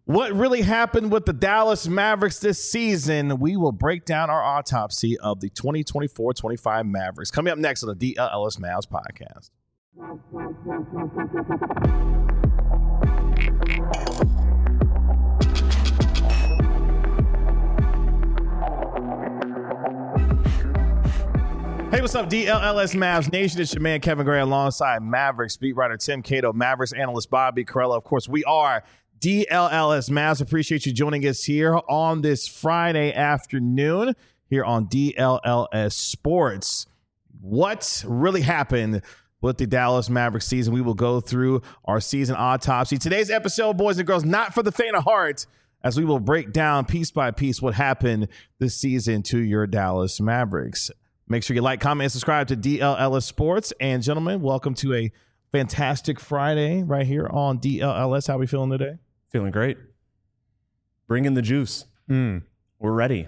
What really happened with the Dallas Mavericks this season? We will break down our autopsy of the 2024-25 Mavericks. Coming up next on the DLLS Mavs podcast. Hey, what's up, DLLS Mavs Nation? It's your man, Kevin Gray, alongside Mavericks beat writer Tim Cato, Mavericks analyst Bobby Carella. Of course, we are DLLS Mavs. Appreciate you joining us here on this Friday afternoon here on DLLS Sports. What really happened with the Dallas Mavericks season? We will go through our season autopsy. Today's episode, boys and girls, not for the faint of heart, as we will break down piece by piece what happened this season to your Dallas Mavericks. Make sure you like, comment, and subscribe to DLLS Sports. And gentlemen, welcome to a fantastic Friday right here on DLLS. How are we feeling today? Feeling great. Bring in the juice. We're ready.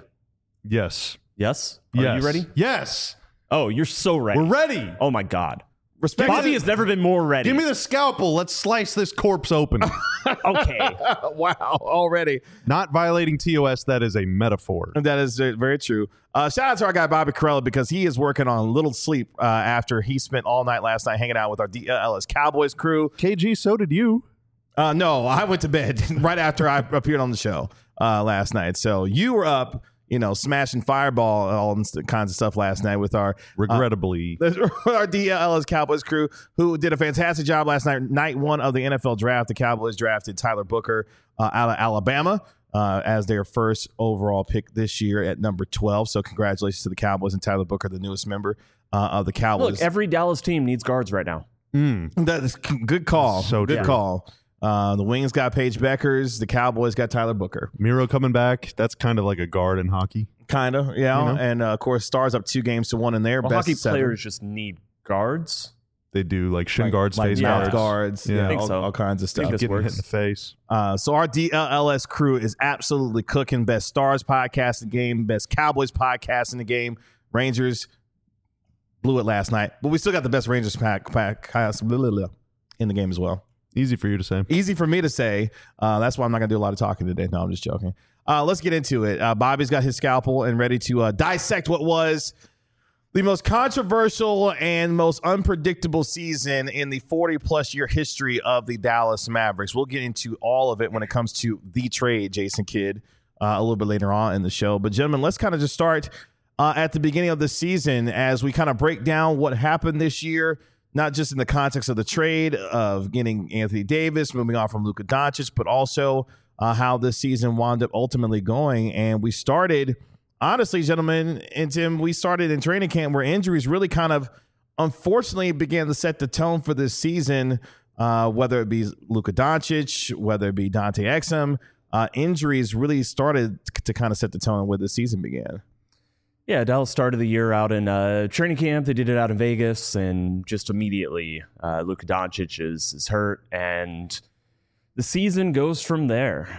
Yes. Yes? Are you ready? Yes. Oh, you're so ready. We're ready. Oh, my God. Respect Bobby has never been more ready. Give me the scalpel. Let's slice this corpse open. Okay. Wow, already. Not violating TOS. That is a metaphor. That is very true. Shout out to our guy, Bobby Carella, because he is working on little sleep after he spent all night last night hanging out with our DLLS Cowboys crew. KG, so did you. No, I went to bed right after I appeared on the show last night. So you were up, smashing fireball, all kinds of stuff last night with our regrettably our DLLS Cowboys crew, who did a fantastic job last night. Night one of the NFL draft, the Cowboys drafted Tyler Booker out of Alabama as their first overall pick this year at number 12. So congratulations to the Cowboys and Tyler Booker, the newest member of the Cowboys. Look, every Dallas team needs guards right now. That is good call. So good call. The Wings got Paige Beckers. The Cowboys got Tyler Booker. Miro coming back. That's kind of like a guard in hockey. Kind of, yeah. And, of course, Stars up 2-1 in their best hockey seven. players just need guards. They do, like shin guards, like face mouth guards. guards, Yeah. I think so. all kinds of stuff. I think Getting works. hit in the face. So our DLLS crew is absolutely cooking. Best Stars podcast in the game, best Cowboys podcast in the game. Rangers blew it last night, but we still got the best Rangers podcast in the game as well. Easy for you to say. Easy for me to say. That's why I'm not going to do a lot of talking today. No, I'm just joking. Let's get into it. Bobby's got his scalpel and ready to dissect what was the most controversial and most unpredictable season in the 40-plus year history of the Dallas Mavericks. We'll get into all of it when it comes to the trade, Jason Kidd, a little bit later on in the show. But, gentlemen, let's kind of just start at the beginning of the season as we kind of break down what happened this year, not just in the context of the trade of getting Anthony Davis, moving on from Luka Doncic, but also how this season wound up ultimately going. And we started, honestly, gentlemen, and Tim, we started in training camp where injuries really kind of, unfortunately, began to set the tone for this season, whether it be Luka Doncic, whether it be Dante Exum. Injuries really started to kind of set the tone where the season began. Yeah, Dallas started the year out in training camp. They did it out in Vegas, and just immediately Luka Doncic is hurt, and the season goes from there.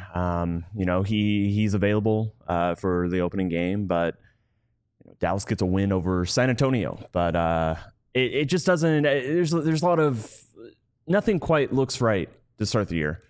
He's available for the opening game, but Dallas gets a win over San Antonio. But it just doesn't. There's a lot of nothing quite looks right to start the year.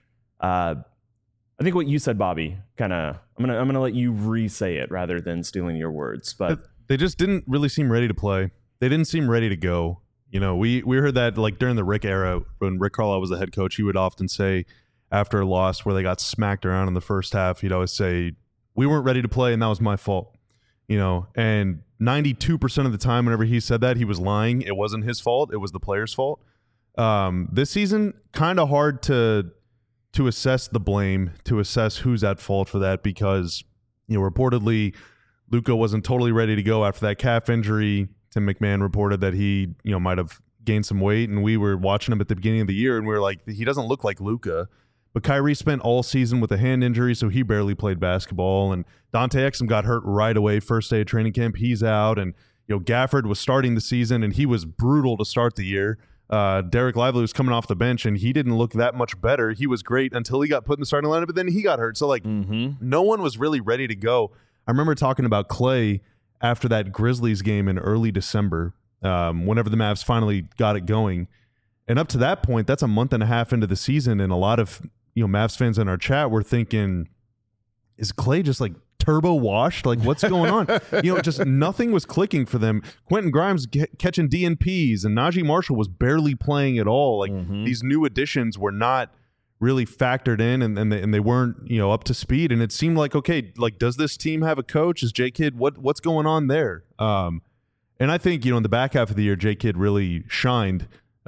I think what you said, Bobby, kind of, I'm gonna let you re-say it rather than stealing your words. But they just didn't really seem ready to play. They didn't seem ready to go. We heard that like during the Rick era, when Rick Carlisle was the head coach, he would often say after a loss where they got smacked around in the first half, he'd always say, "We weren't ready to play, and that was my fault." And 92% of the time, whenever he said that, he was lying. It wasn't his fault. It was the player's fault. This season, kind of hard to assess the blame, to assess who's at fault for that, because reportedly Luka wasn't totally ready to go after that calf injury. Tim McMahon reported that he might have gained some weight, and we were watching him at the beginning of the year and we were like, he doesn't look like Luka. But Kyrie spent all season with a hand injury, so he barely played basketball, and Dante Exum got hurt right away first day of training camp. He's out, and Gafford was starting the season and he was brutal to start the year. Derek Lively was coming off the bench and he didn't look that much better. He was great until he got put in the starting lineup, but then he got hurt. So no one was really ready to go. I remember talking about Clay after that Grizzlies game in early December, whenever the Mavs finally got it going. And up to that point, that's a month and a half into the season, and a lot of Mavs fans in our chat were thinking, is Klay just like turbo washed? Like, what's going on? Just nothing was clicking for them. Quentin Grimes catching DNPs, and Najee Marshall was barely playing at all. Like, these new additions were not really factored in, and they weren't up to speed. And it seemed like, okay, like, does this team have a coach? Is J Kidd what's going on there? And I think in the back half of the year, J Kidd really shined.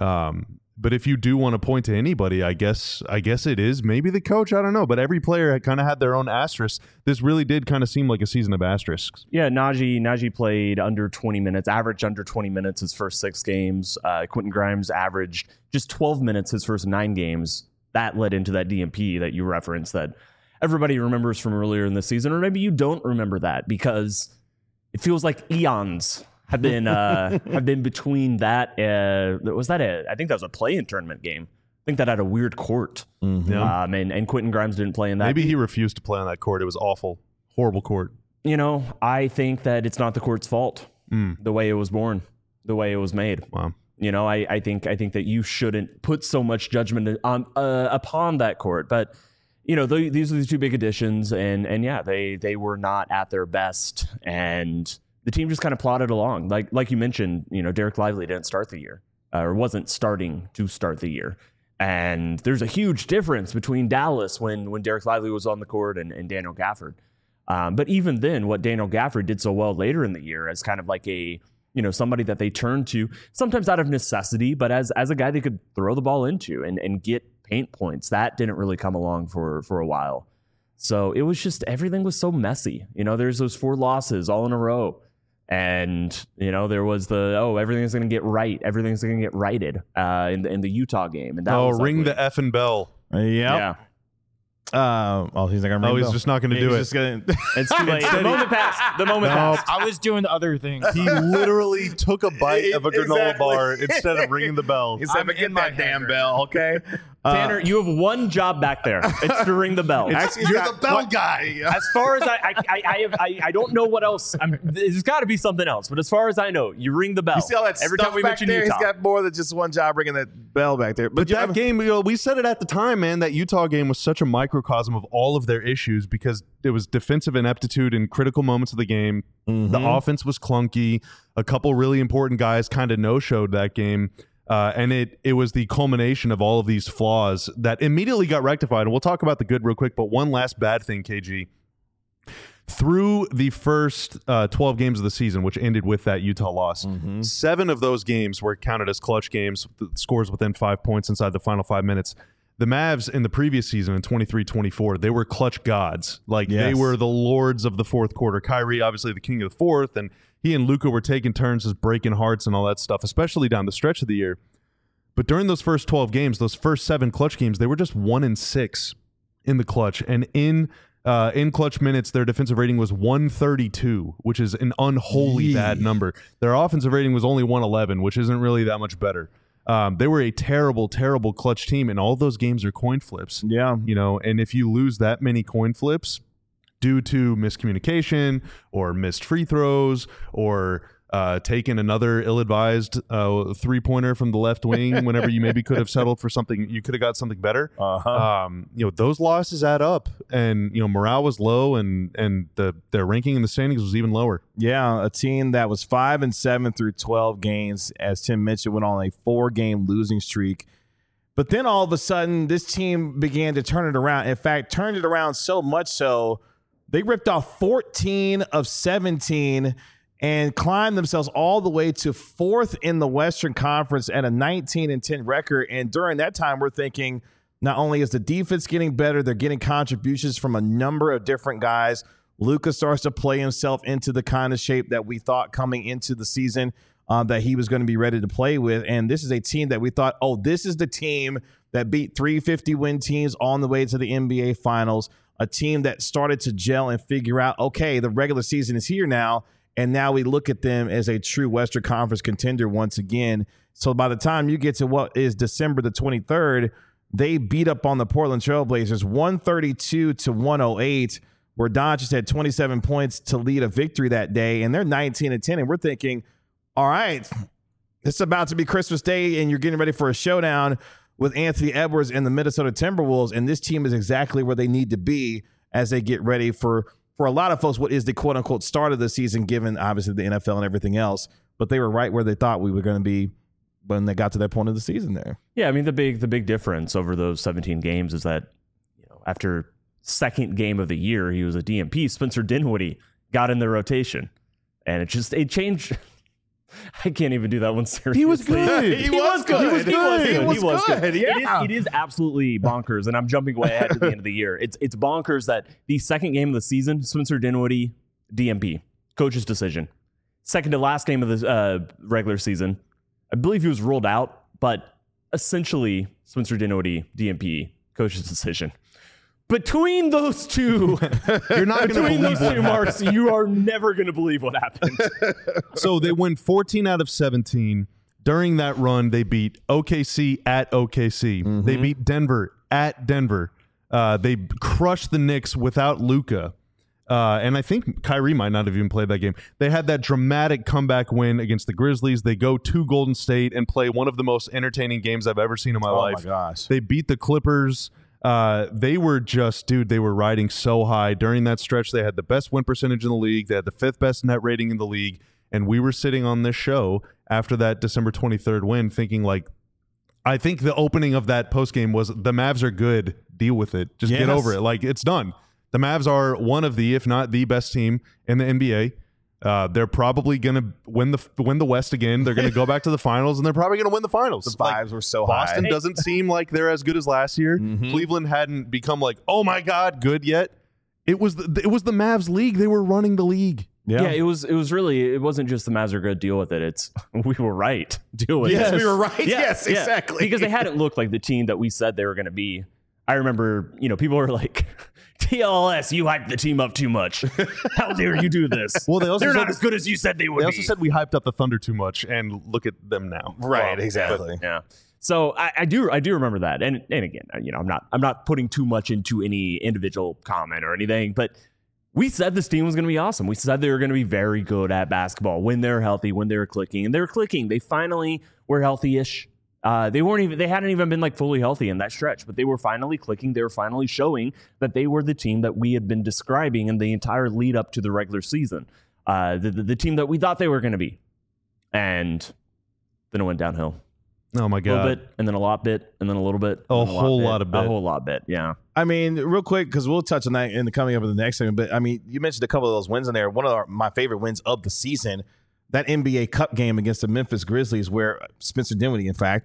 But if you do want to point to anybody, I guess it is maybe the coach. I don't know. But every player had kind of had their own asterisks. This really did kind of seem like a season of asterisks. Yeah, Najee played under 20 minutes, averaged under 20 minutes his first 6 games. Quentin Grimes averaged just 12 minutes his first 9 games. That led into that DNP that you referenced that everybody remembers from earlier in the season. Or maybe you don't remember that because it feels like eons have been between that. I think that was a play-in tournament game. I think that had a weird court. And Quentin Grimes didn't play in that. Maybe he refused to play on that court. It was awful, horrible court. I think that it's not the court's fault. The way it was born, the way it was made. Wow. I think that you shouldn't put so much judgment on upon that court. But these are the 2 big additions, and yeah, they were not at their best, and the team just kind of plodded along. Like you mentioned, Derek Lively didn't start the year, or wasn't starting to start the year. And there's a huge difference between Dallas when Derek Lively was on the court and Daniel Gafford. But even then, what Daniel Gafford did so well later in the year as kind of like a, somebody that they turned to, sometimes out of necessity, but as a guy they could throw the ball into and get paint points, that didn't really come along for a while. So it was just, everything was so messy. There's those 4 losses all in a row. And, there was everything's going to get right. Everything's going to get righted in the Utah game. And that was ring the effing bell. Yeah. He's not going to ring the bell. He's just not going to do it. It's too late. The moment passed. I was doing the other thing. He literally took a bite of a granola bar instead of ringing the bell. He said, "Forget that damn bell, okay?" Tanner, you have one job back there. It's to ring the bell. You're the bell guy. As far as I don't know what else. There's got to be something else. But as far as I know, you ring the bell. You see all that every stuff time we back mention there? Utah. He's got more than just one job ringing that bell back there. But that game, we said it at the time, man. That Utah game was such a microcosm of all of their issues because it was defensive ineptitude in critical moments of the game. The offense was clunky. A couple really important guys kind of no-showed that game. And it was the culmination of all of these flaws that immediately got rectified. And we'll talk about the good real quick, but one last bad thing, KG. Through the first 12 games of the season, which ended with that Utah loss, 7 of those games were counted as clutch games, scores within 5 points inside the final 5 minutes. The Mavs in the previous season in 23-24, they were clutch gods. They were the lords of the fourth quarter. Kyrie, obviously the king of the fourth, and he and Luka were taking turns just breaking hearts and all that stuff, especially down the stretch of the year. But during those first 12 games, those first 7 clutch games, they were just 1-6 in the clutch. And in clutch minutes, their defensive rating was 132, which is an unholy bad number. Their offensive rating was only 111, which isn't really that much better. They were a terrible, terrible clutch team, and all those games are coin flips. Yeah. And if you lose that many coin flips due to miscommunication or missed free throws or taking another ill-advised three-pointer from the left wing whenever you maybe could have settled for something, you could have got something better. Those losses add up, and morale was low, and their ranking in the standings was even lower. Yeah, a team that was 5-7 through 12 games, as Tim mentioned, went on a 4-game losing streak. But then all of a sudden, this team began to turn it around. In fact, turned it around so much so they ripped off 14 of 17 and climbed themselves all the way to 4th in the Western Conference at a 19-10 record. And during that time, we're thinking not only is the defense getting better, they're getting contributions from a number of different guys. Luka starts to play himself into the kind of shape that we thought coming into the season that he was going to be ready to play with. And this is a team that we thought, this is the team that beat 350-win teams on the way to the NBA Finals, a team that started to gel and figure out, okay, the regular season is here now. And now we look at them as a true Western Conference contender once again. So by the time you get to what is December the 23rd, they beat up on the Portland Trailblazers 132-108, where Doncic had 27 points to lead a victory that day. And they're 19-10. And we're thinking, all right, it's about to be Christmas Day and you're getting ready for a showdown. with Anthony Edwards and the Minnesota Timberwolves, and this team is exactly where they need to be as they get ready for a lot of folks what is the quote-unquote start of the season, given obviously the NFL and everything else. But they were right where they thought we were going to be when they got to that point of the season there. Yeah, I mean, the big difference over those 17 games is that, after second game of the year, he was a DMP. Spencer Dinwiddie got in the rotation, and it changed. I can't even do that one seriously. He was good. He was good. Yeah. It is absolutely bonkers, and I'm jumping way ahead to the end of the year. It's bonkers that the second game of the season, Spencer Dinwiddie, DMP, coach's decision. Second to last game of the regular season, I believe he was ruled out, but essentially Spencer Dinwiddie, DMP, coach's decision. Between those two, You're not going to between believe those two marks, you are never going to believe what happened. So they win 14 out of 17. During that run, they beat OKC at OKC. Mm-hmm. They beat Denver at Denver. They crushed the Knicks without Luka. And I think Kyrie might not have even played that game. They had that dramatic comeback win against the Grizzlies. They go to Golden State and play one of the most entertaining games I've ever seen in my life. Oh, my gosh. They beat the Clippers. They were just, they were riding so high. During that stretch, they had the best win percentage in the league. They had the 5th best net rating in the league. And we were sitting on this show after that December 23rd win thinking I think the opening of that postgame was the Mavs are good. Deal with it. Just get over it. It's done. The Mavs are one of the, if not the best team in the NBA. They're probably going to win the West again. They're going to go back to the finals, and they're probably going to win the finals. The vibes were so high. Boston doesn't seem like they're as good as last year. Mm-hmm. Cleveland hadn't become oh my God, good yet. It was the Mavs league. They were running the league. Yeah, it was really, it wasn't just the Mavs are good, deal with it. It's we were right. Deal with it. Yes, we were right. Yes, exactly. Because they hadn't looked like the team that we said they were going to be. I remember, people were like, TLS, you hyped the team up too much. How dare you do this? Well, they're not as good as you said they would be. They also said we hyped up the Thunder too much, and look at them now. Right, exactly. Yeah. So I do remember that, and again, I'm not putting too much into any individual comment or anything, but we said this team was going to be awesome. We said they were going to be very good at basketball when they're healthy, when they're clicking, and they were clicking. They finally were healthy-ish. They hadn't even been fully healthy in that stretch, but they were finally clicking. They were finally showing that they were the team that we had been describing in the entire lead up to the regular season. The team that we thought they were going to be. And then it went downhill. Oh my God. A little bit, and then a lot bit, and then a little bit. A whole lot of bit. A whole lot bit, yeah. I mean, real quick, because we'll touch on that in the coming up in the next segment, but I mean, you mentioned a couple of those wins in there. One of my favorite wins of the season, that NBA Cup game against the Memphis Grizzlies, where Spencer Dinwiddie, in fact,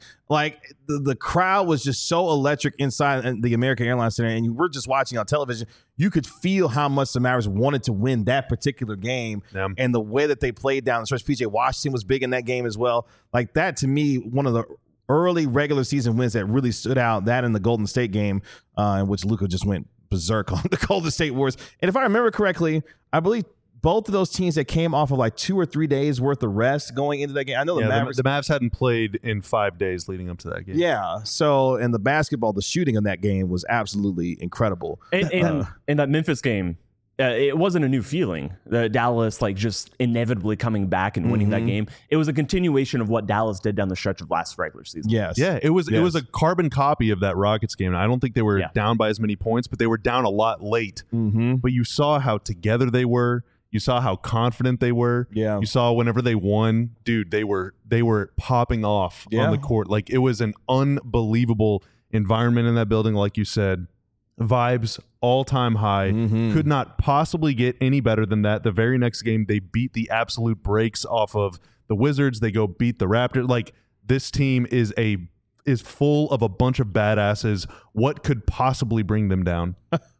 the crowd was just so electric inside the American Airlines Center, and you were just watching on television. You could feel how much the Mavericks wanted to win that particular game, and the way that they played down the stretch. PJ Washington was big in that game as well. That, to me, one of the early regular season wins that really stood out. That in the Golden State game, in which Luka just went berserk on the Golden State Warriors. And if I remember correctly, I believe both of those teams that came off of 2 or 3 days worth of rest going into that game. I know the Mavericks. The Mavs hadn't played in 5 days leading up to that game. Yeah. So, and the basketball, the shooting in that game was absolutely incredible. And in that Memphis game, it wasn't a new feeling. Dallas just inevitably coming back and winning that game. It was a continuation of what Dallas did down the stretch of last regular season. Yes. Yeah, it was a carbon copy of that Rockets game. I don't think they were down by as many points, but they were down a lot late. Mm-hmm. But you saw how together they were. You saw how confident they were. Yeah. You saw whenever they won, dude, they were popping off on the court. It was an unbelievable environment in that building, like you said. Vibes all-time high. Could not possibly get any better than that. The very next game, they beat the absolute brakes off of the Wizards. They go beat the Raptors. This team is full of a bunch of badasses. What could possibly bring them down?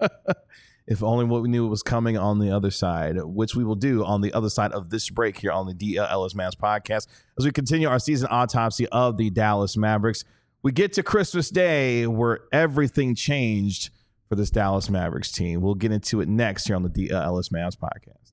If only what we knew was coming on the other side, which we will do on the other side of this break here on the DLS Mavs podcast as we continue our season autopsy of the Dallas Mavericks. We get to Christmas Day where everything changed for this Dallas Mavericks team. We'll get into it next here on the DLS Mavs podcast.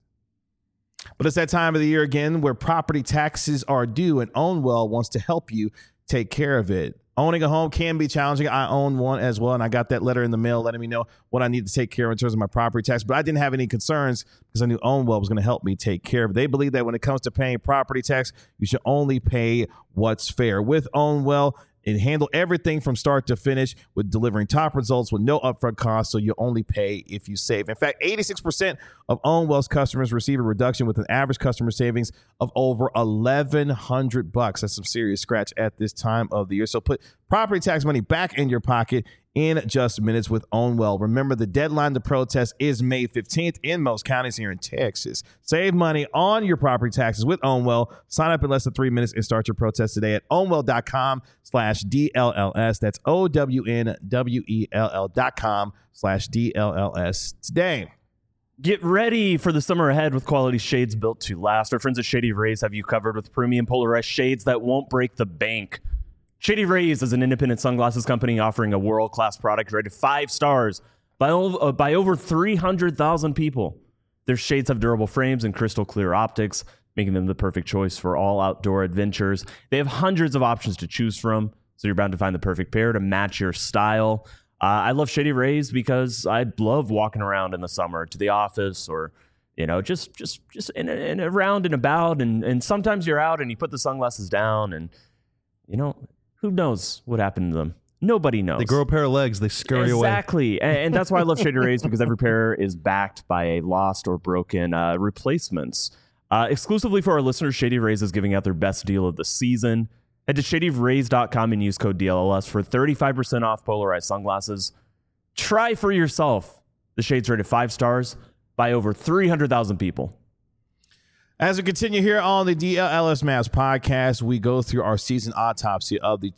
But it's that time of the year again where property taxes are due, and Ownwell wants to help you take care of it. Owning a home can be challenging. I own one as well, and I got that letter in the mail letting me know what I need to take care of in terms of my property tax. But I didn't have any concerns because I knew Ownwell was going to help me take care of it. They believe that when it comes to paying property tax, you should only pay what's fair. With Ownwell, and handle everything from start to finish with delivering top results with no upfront cost, so you only pay if you save. In fact, 86% of Ownwell's customers receive a reduction with an average customer savings of over $1,100. That's some serious scratch at this time of the year. So put property tax money back in your pocket in just minutes with Ownwell. Remember, the deadline to protest is May 15th in most counties here in Texas. Save money on your property taxes with Ownwell. Sign up in less than 3 minutes and start your protest today at ownwell.com/DLLS. That's OWNWELL.com/DLLS today. Get ready for the summer ahead with quality shades built to last. Our friends at Shady Rays have you covered with premium polarized shades that won't break the bank. Shady Rays is an independent sunglasses company offering a world-class product rated 5 stars by over 300,000 people. Their shades have durable frames and crystal clear optics, making them the perfect choice for all outdoor adventures. They have hundreds of options to choose from, so you're bound to find the perfect pair to match your style. I love Shady Rays because I love walking around in the summer to the office, or just in around and about, and sometimes you're out and you put the sunglasses down, and who knows what happened to them? Nobody knows. They grow a pair of legs, they scurry away. Exactly. And that's why I love Shady Rays, because every pair is backed by a lost or broken replacements. Exclusively for our listeners, Shady Rays is giving out their best deal of the season. Head to shadyrays.com and use code DLLS for 35% off polarized sunglasses. Try for yourself. The shades rated 5 stars by over 300,000 people. As we continue here on the DLLS Mavs podcast, we go through our season autopsy of the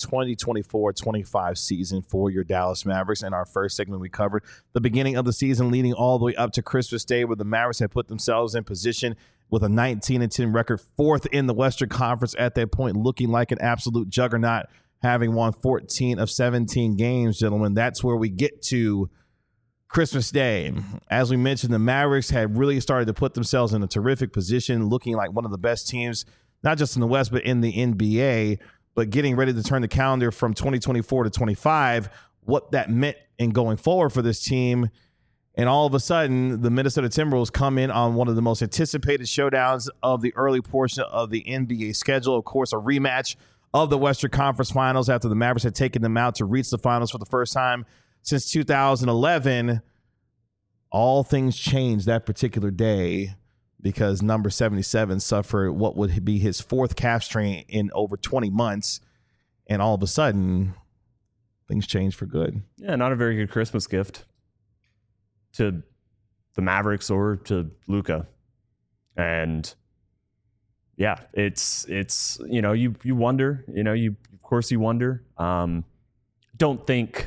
2024-25 season for your Dallas Mavericks. In our first segment, we covered the beginning of the season leading all the way up to Christmas Day, where the Mavericks had put themselves in position with a 19-10 record, 4th in the Western Conference at that point, looking like an absolute juggernaut, having won 14 of 17 games, gentlemen. That's where we get to Christmas Day. As we mentioned, the Mavericks had really started to put themselves in a terrific position, looking like one of the best teams, not just in the West, but in the NBA, but getting ready to turn the calendar from 2024 to 25, what that meant in going forward for this team. And all of a sudden, the Minnesota Timberwolves come in on one of the most anticipated showdowns of the early portion of the NBA schedule. Of course, a rematch of the Western Conference Finals after the Mavericks had taken them out to reach the finals for the first time since 2011. All things changed that particular day because number 77 suffered what would be his 4th calf strain in over 20 months. And all of a sudden, things changed for good. Yeah, not a very good Christmas gift to the Mavericks or to Luka. And yeah, it's you wonder, of course you wonder. Don't think,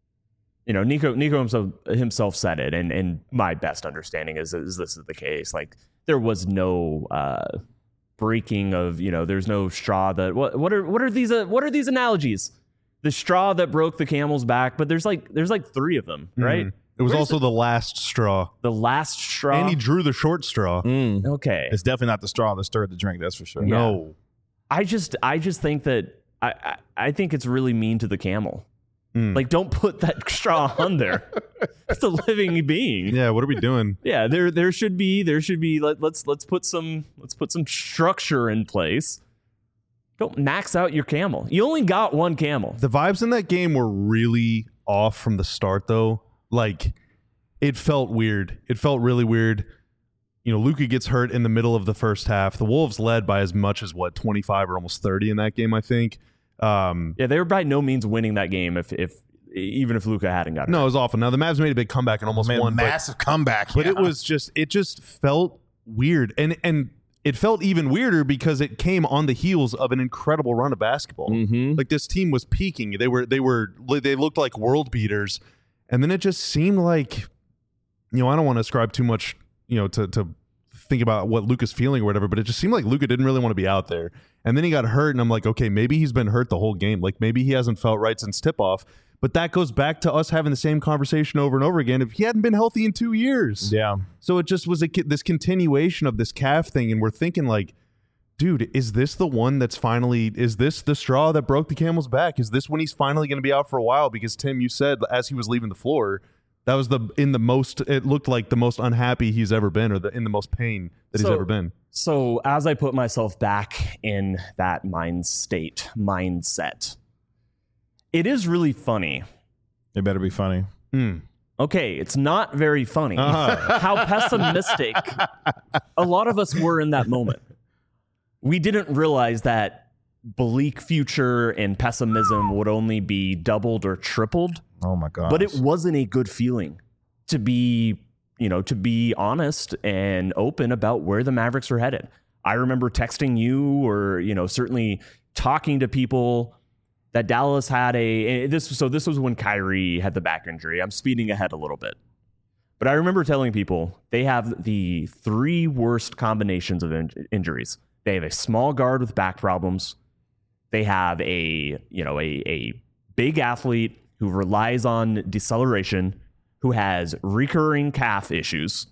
Nico himself said it, and my best understanding is this is the case. Like, there was no breaking of, there's no straw that what are these analogies? The straw that broke the camel's back, but there's like 3 of them, right? It was also the last straw. The last straw. And he drew the short straw. Okay. It's definitely not the straw that stirred the drink, that's for sure. Yeah. No. I just think that I think it's really mean to the camel. Like, don't put that straw on there. It's a living being. Yeah, what are we doing? Yeah, there should be let's put some structure in place. Don't max out your camel. You only got one camel. The vibes in that game were really off from the start, though. Like, it felt weird. It felt really weird. Luka gets hurt in the middle of the first half. The Wolves led by as much as 25 or almost 30 in that game, I think. Yeah, they were by no means winning that game even if Luka hadn't got hurt. No, it was awful. Now the Mavs made a big comeback and almost won. Massive comeback. But it just felt weird. And it felt even weirder because it came on the heels of an incredible run of basketball. Mm-hmm. Like, this team was peaking. They looked like world beaters. And then it just seemed like, I don't want to ascribe too much, to think about what Luka's feeling or whatever, but it just seemed like Luka didn't really want to be out there. And then he got hurt, and I'm like, okay, maybe he's been hurt the whole game. Like, maybe he hasn't felt right since tip-off. But that goes back to us having the same conversation over and over again. If he hadn't been healthy in 2 years. Yeah. So it just was this continuation of this calf thing, and we're thinking, like, dude, is this the one that's is this the straw that broke the camel's back? Is this when he's finally going to be out for a while? Because, Tim, you said as he was leaving the floor, that was it looked like the most unhappy he's ever been, or in the most pain that he's ever been. So as I put myself back in that mindset, It is really funny. It better be funny. Okay, it's not very funny how pessimistic a lot of us were in that moment. We didn't realize that bleak future and pessimism would only be doubled or tripled. Oh my God. But it wasn't a good feeling to be honest and open about where the Mavericks were headed. I remember texting you or, certainly talking to people that Dallas had this was when Kyrie had the back injury. I'm speeding ahead a little bit. But I remember telling people they have the 3 worst combinations of injuries. They have a small guard with back problems. They have a big athlete who relies on deceleration, who has recurring calf issues.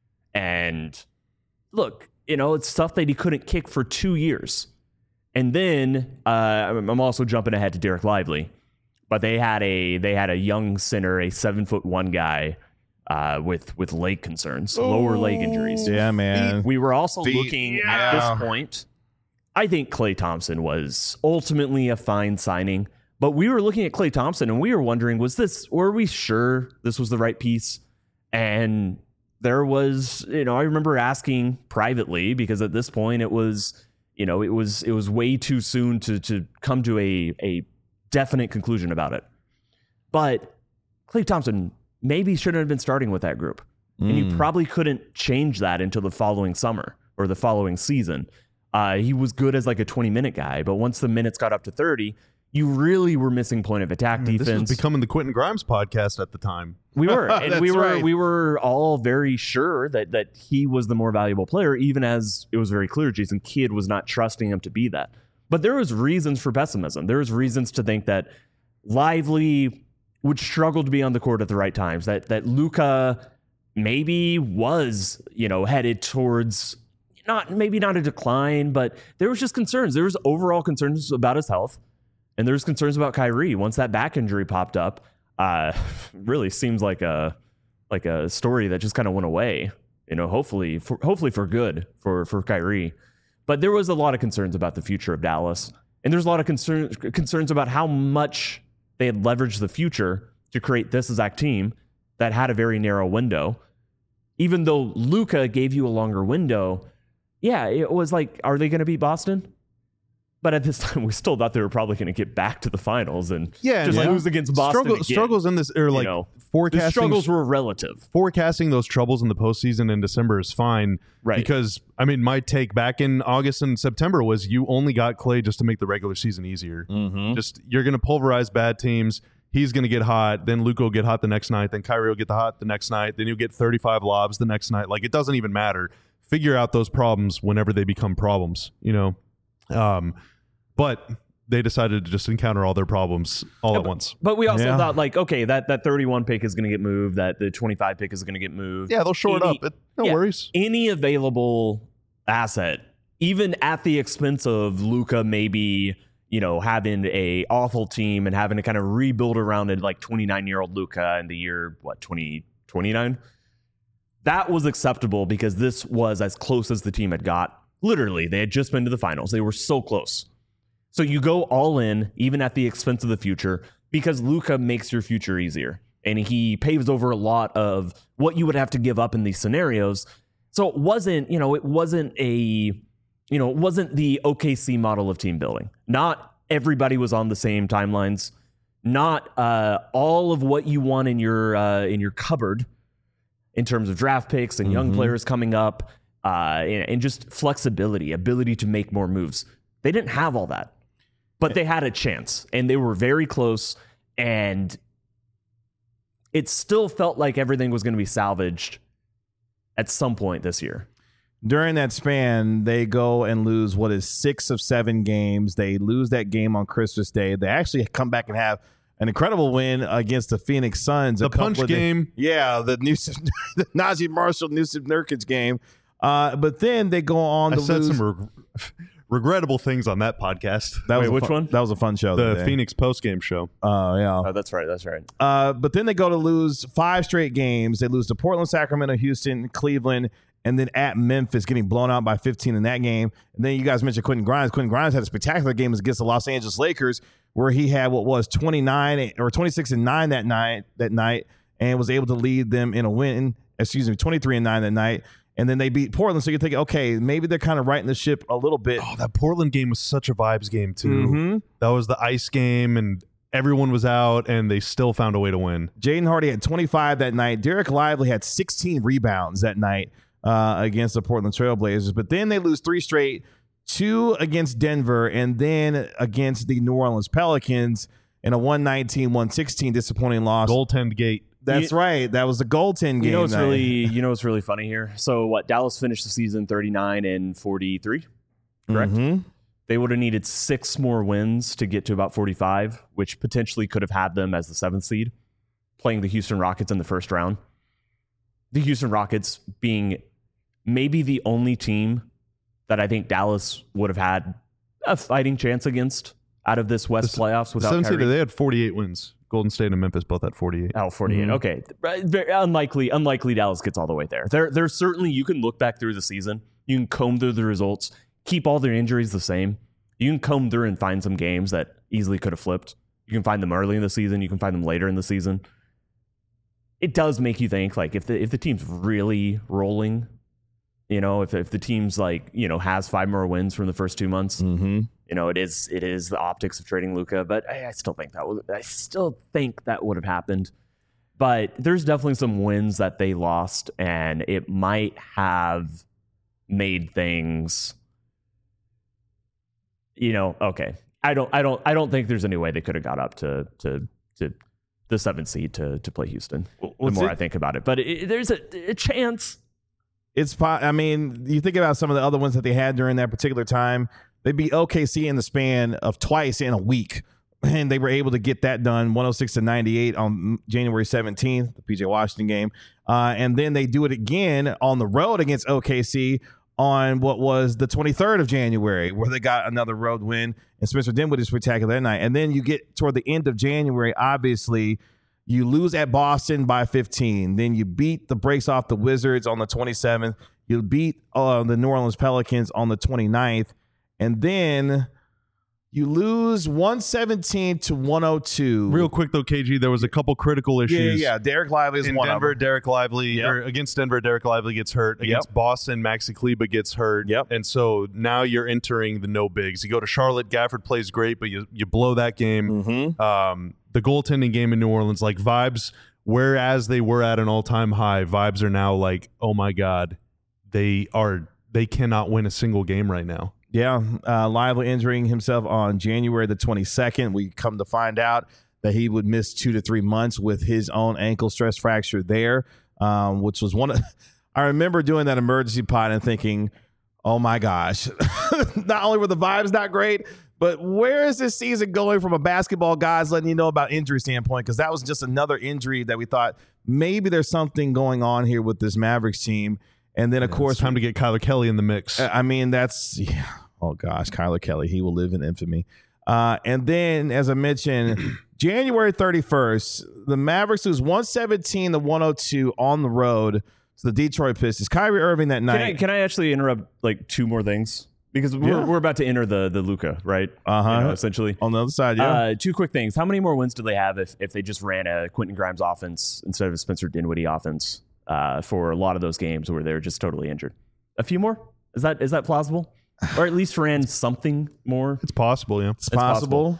And look, it's stuff that he couldn't kick for 2 years. And then I'm also jumping ahead to Derek Lively, but they had a young center, a 7'1" guy with leg concerns, lower leg injuries. Yeah, man. We were also looking at this point. I think Klay Thompson was ultimately a fine signing, but we were looking at Klay Thompson and we were wondering, were we sure this was the right piece? And there was, I remember asking privately, because at this point it was way too soon to come to a definite conclusion about it. But Klay Thompson maybe shouldn't have been starting with that group. And you probably couldn't change that until the following summer or the following season. He was good as like a 20-minute guy, but once the minutes got up to 30, you really were missing point of attack defense. This was becoming the Quentin Grimes podcast at the time. We were, and we were all very sure that he was the more valuable player, even as it was very clear Jason Kidd was not trusting him to be that. But there was reasons for pessimism. There was reasons to think that Lively would struggle to be on the court at the right times. That Luka maybe was, headed towards maybe not a decline, but there was just concerns. There was overall concerns about his health. And there's concerns about Kyrie. Once that back injury popped up, really seems like a story that just kind of went away. Hopefully for good for Kyrie. But there was a lot of concerns about the future of Dallas, and there's a lot of concerns about how much they had leveraged the future to create this exact team that had a very narrow window. Even though Luka gave you a longer window, yeah, it was like, are they going to beat Boston? But at this time, we still thought they were probably going to get back to the finals and lose against Boston. Struggles in this, or forecasting. The struggles were relative. Forecasting those troubles in the postseason in December is fine, right? Because my take back in August and September was you only got Klay just to make the regular season easier. Mm-hmm. Just you're going to pulverize bad teams. He's going to get hot. Then Luka will get hot the next night. Then Kyrie will get hot the next night. Then you'll get 35 lobs the next night. Like, it doesn't even matter. Figure out those problems whenever they become problems. But they decided to just encounter all their problems at once. But we also thought, okay, that 31 pick is going to get moved, that the 25 pick is going to get moved. Yeah, they'll shore it up. No worries. Any available asset, even at the expense of Luka maybe, having a awful team and having to kind of rebuild around it, like 29-year-old Luka in the year, 2029? That was acceptable because this was as close as the team had got. Literally, they had just been to the finals. They were so close. So you go all in, even at the expense of the future, because Luka makes your future easier. And he paves over a lot of what you would have to give up in these scenarios. So it wasn't the OKC model of team building. Not everybody was on the same timelines. Not all of what you want in your cupboard in terms of draft picks and young players coming up, and just flexibility, ability to make more moves. They didn't have all that. But they had a chance, and they were very close, and it still felt like everything was going to be salvaged at some point this year. During that span, they go and lose 6 of 7 games. They lose that game on Christmas Day. They actually come back and have an incredible win against the Phoenix Suns. The punch game. The Najee Marshall, Nusif Nurkic game. But then they go on to lose. Some regrettable things on that podcast. Which one? That was a fun show. The Phoenix post-game show. Oh, yeah. Oh, that's right. But then they go to lose 5 straight games. They lose to Portland, Sacramento, Houston, Cleveland, and then at Memphis, getting blown out by 15 in that game. And then you guys mentioned Quentin Grimes. Quentin Grimes had a spectacular game against the Los Angeles Lakers, where he had what was 29 or 26-9 that night, and was able to lead them in a win. 23-9 that night. And then they beat Portland. So you're thinking, okay, maybe they're kind of righting the ship a little bit. Oh, that Portland game was such a vibes game, too. Mm-hmm. That was the ice game, and everyone was out, and they still found a way to win. Jaden Hardy had 25 that night. Derek Lively had 16 rebounds that night against the Portland Trailblazers. But then they lose 3 straight, 2 against Denver, and then against the New Orleans Pelicans in a 119-116 disappointing loss. Goaltend gate. That's right. That was the goaltend game. You know what's really funny here? So what? Dallas finished the season 39-43, correct? Mm-hmm. They would have needed 6 more wins to get to about 45, which potentially could have had them as the 7th seed, playing the Houston Rockets in the first round. The Houston Rockets being maybe the only team that I think Dallas would have had a fighting chance against out of this West playoffs without Kyrie. They had 48 wins. Golden State and Memphis both had 48. Oh, 48. Mm-hmm. Okay. Very unlikely Dallas gets all the way there. There's certainly, you can look back through the season. You can comb through the results, keep all their injuries the same. You can comb through and find some games that easily could have flipped. You can find them early in the season. You can find them later in the season. It does make you think, like, if the team's really rolling, you know, if the team's like, you know, has 5 more wins from the first 2 months, Mm-hmm. you know, it is the optics of trading Luka, but I still think that would have happened. But there's definitely some wins that they lost, and it might have made things, you know, okay. I don't think there's any way they could have got up to the 7th seed to play Houston. The more I think about it, but there's a chance. I mean, you think about some of the other ones that they had during that particular time. They beat OKC in the span of twice in a week, and they were able to get that done 106-98 on January 17th, the PJ Washington game. And then they do it again on the road against OKC on what was the 23rd of January, where they got another road win, and Spencer Dinwiddie is spectacular that night. And then you get toward the end of January, obviously, you lose at Boston by 15. Then you beat the brakes off the Wizards on the 27th. You beat the New Orleans Pelicans on the 29th. And then you lose 117-102. Real quick, though, KG, there was a couple critical issues. Yeah. Derek Lively is in one Denver, of them. Derek Lively, or against Denver, Derek Lively gets hurt. Against Boston, Maxi Kleber gets hurt. Yep. And so now you're entering the no bigs. You go to Charlotte, Gafford plays great, but you blow that game. Mm-hmm. The goaltending game in New Orleans, like vibes, whereas they were at an all-time high, vibes are now like, oh my God, they cannot win a single game right now. Yeah, Lively injuring himself on January the 22nd. We come to find out that he would miss 2 to 3 months with his own ankle stress fracture there, which was one of – I remember doing that emergency pod and thinking, oh, my gosh. Not only were the vibes not great, but where is this season going from a basketball guys letting you know about injury standpoint? Because that was just another injury that we thought maybe there's something going on here with this Mavericks team. And then, of course, it's time to get Kyler Kelly in the mix. I mean, oh gosh, Kyler Kelly, he will live in infamy. And then, as I mentioned, January 31st, the Mavericks lose 117-102 on the road to the Detroit Pistons. Kyrie Irving that night. Can I actually interrupt like 2 more things? Because we're about to enter the Luka, right? Essentially. On the other side, yeah. 2 quick things. How many more wins do they have if they just ran a Quentin Grimes offense instead of a Spencer Dinwiddie offense for a lot of those games where they're just totally injured? A few more? Is that plausible? Or at least ran something more? It's possible, yeah. It's possible.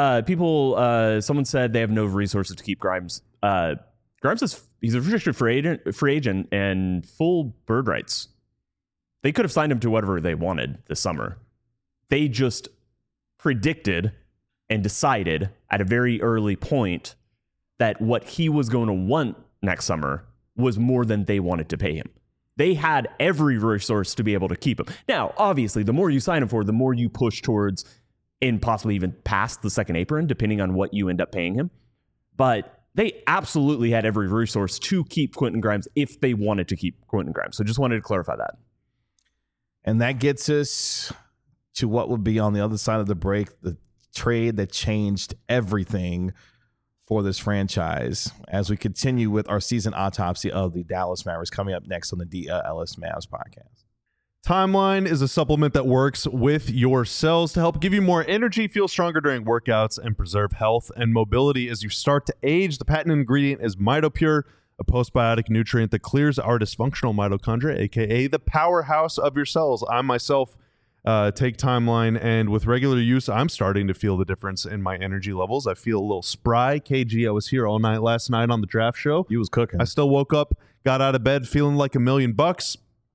Someone said they have no resources to keep Grimes. Grimes he's a restricted free agent and full bird rights. They could have signed him to whatever they wanted this summer. They just predicted and decided at a very early point that what he was going to want next summer was more than they wanted to pay him. They had every resource to be able to keep him. Now, obviously, the more you sign him for, the more you push towards and possibly even past the second apron, depending on what you end up paying him. But they absolutely had every resource to keep Quentin Grimes if they wanted to keep Quentin Grimes. So just wanted to clarify that. And that gets us to what would be on the other side of the break, the trade that changed everything for this franchise, as we continue with our season autopsy of the Dallas Mavericks coming up next on the DLS Mavs podcast. Timeline is a supplement that works with your cells to help give you more energy, feel stronger during workouts, and preserve health and mobility as you start to age. The patent ingredient is MitoPure, a postbiotic nutrient that clears our dysfunctional mitochondria, aka the powerhouse of your cells. I myself take Timeline, and with regular use, I'm starting to feel the difference in my energy levels. I feel a little spry. KG, I was here all night last night on the draft show. You was cooking. I still woke up, got out of bed feeling like $1,000,000.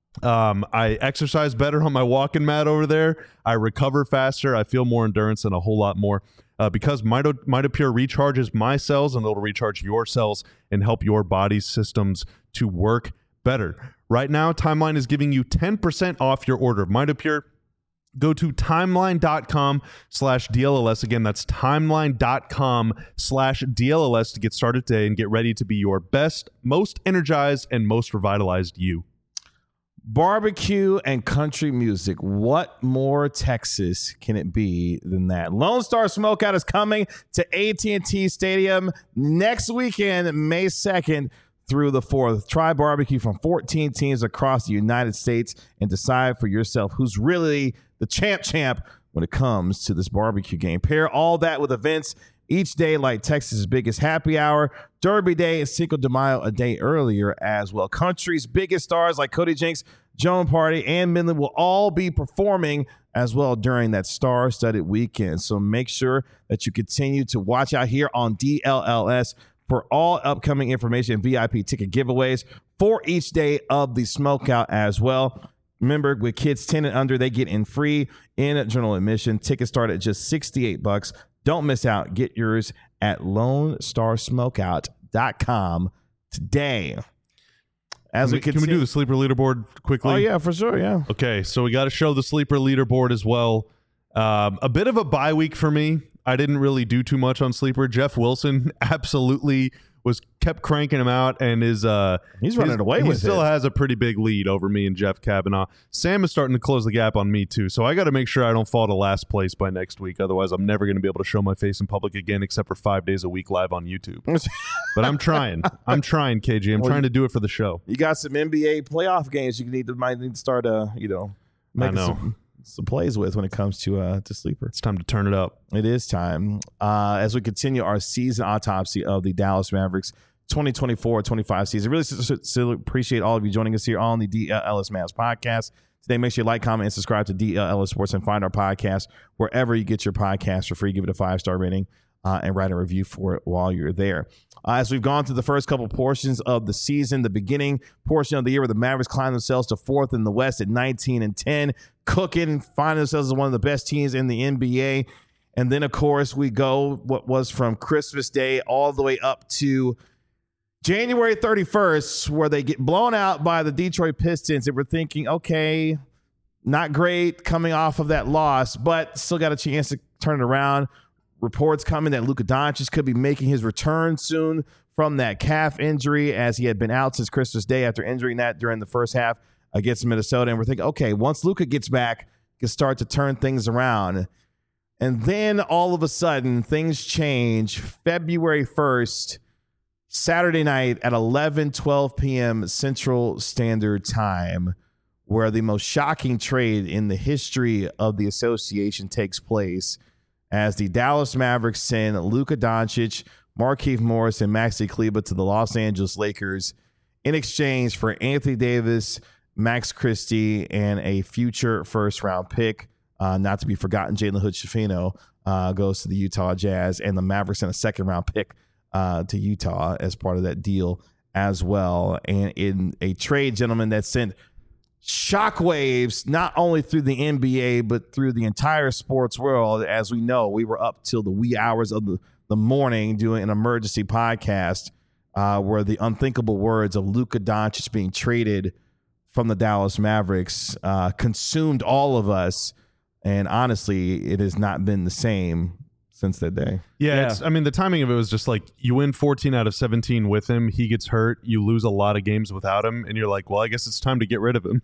I exercise better on my walking mat over there. I recover faster. I feel more endurance and a whole lot more because MitoPure recharges my cells, and it'll recharge your cells and help your body's systems to work better. Right now, Timeline is giving you 10% off your order of MitoPure. Go to timeline.com/DLLS. Again, that's timeline.com/DLLS to get started today and get ready to be your best, most energized, and most revitalized you. Barbecue and country music. What more Texas can it be than that? Lone Star Smokeout is coming to AT&T Stadium next weekend, May 2nd through the 4th. Try barbecue from 14 teams across the United States and decide for yourself who's really the champ when it comes to this barbecue game. Pair all that with events each day like Texas' biggest happy hour, Derby Day, and Cinco de Mayo a day earlier as well. Country's biggest stars like Cody Jinks, Joan Party, and Midland will all be performing as well during that star-studded weekend. So make sure that you continue to watch out here on DLLS for all upcoming information and VIP ticket giveaways for each day of the Smokeout as well. Remember, with kids 10 and under, they get in free in general admission. Tickets start at just $68. Don't miss out. Get yours at LoneStarSmokeout.com today. Can we do the sleeper leaderboard quickly? Oh, yeah, for sure, yeah. Okay, so we got to show the sleeper leaderboard as well. A bit of a bye week for me. I didn't really do too much on sleeper. Jeff Wilson absolutely kept cranking him out, and he's running away with it. He still has a pretty big lead over me and Jeff Kavanaugh. Sam is starting to close the gap on me too, so I got to make sure I don't fall to last place by next week. Otherwise, I'm never going to be able to show my face in public again, except for 5 days a week live on YouTube. But I'm trying. KG. I'm trying to do it for the show. You got some NBA playoff games you might need to start making some plays with when it comes to sleeper. It's time to turn it up. It is time. As we continue our season autopsy of the Dallas Mavericks 2024-25 season. Really appreciate all of you joining us here on the DLLS Mavs podcast. Today, make sure you like, comment, and subscribe to DLLS Sports and find our podcast wherever you get your podcast for free. Give it a 5-star rating and write a review for it while you're there. As we've gone through the first couple portions of the season, the beginning portion of the year where the Mavericks climbed themselves to 4th in the West at 19-10, cooking, finding themselves as one of the best teams in the NBA. And then, of course, we go what was from Christmas Day all the way up to January 31st, where they get blown out by the Detroit Pistons. And we're thinking, okay, not great coming off of that loss, but still got a chance to turn it around. Reports coming that Luka Doncic could be making his return soon from that calf injury, as he had been out since Christmas Day after injuring that during the first half against Minnesota. And we're thinking, okay, once Luka gets back, can start to turn things around. And then all of a sudden, things change. February 1st, Saturday night at 11:12 p.m. Central Standard Time, where the most shocking trade in the history of the association takes place, as the Dallas Mavericks send Luka Doncic, Markieff Morris, and Maxi Kleber to the Los Angeles Lakers in exchange for Anthony Davis, Max Christie, and a future first-round pick. Not to be forgotten, Jalen Hood-Schifino goes to the Utah Jazz, and the Mavericks sent a second-round pick to Utah as part of that deal as well. And in a trade, gentlemen, that sent shockwaves not only through the NBA but through the entire sports world. As we know, we were up till the wee hours of the morning doing an emergency podcast where the unthinkable words of Luka Doncic being traded from the Dallas Mavericks consumed all of us. And honestly, it has not been the same since that day. Yeah. The timing of it was just like, you win 14 out of 17 with him. He gets hurt. You lose a lot of games without him. And you're like, well, I guess it's time to get rid of him.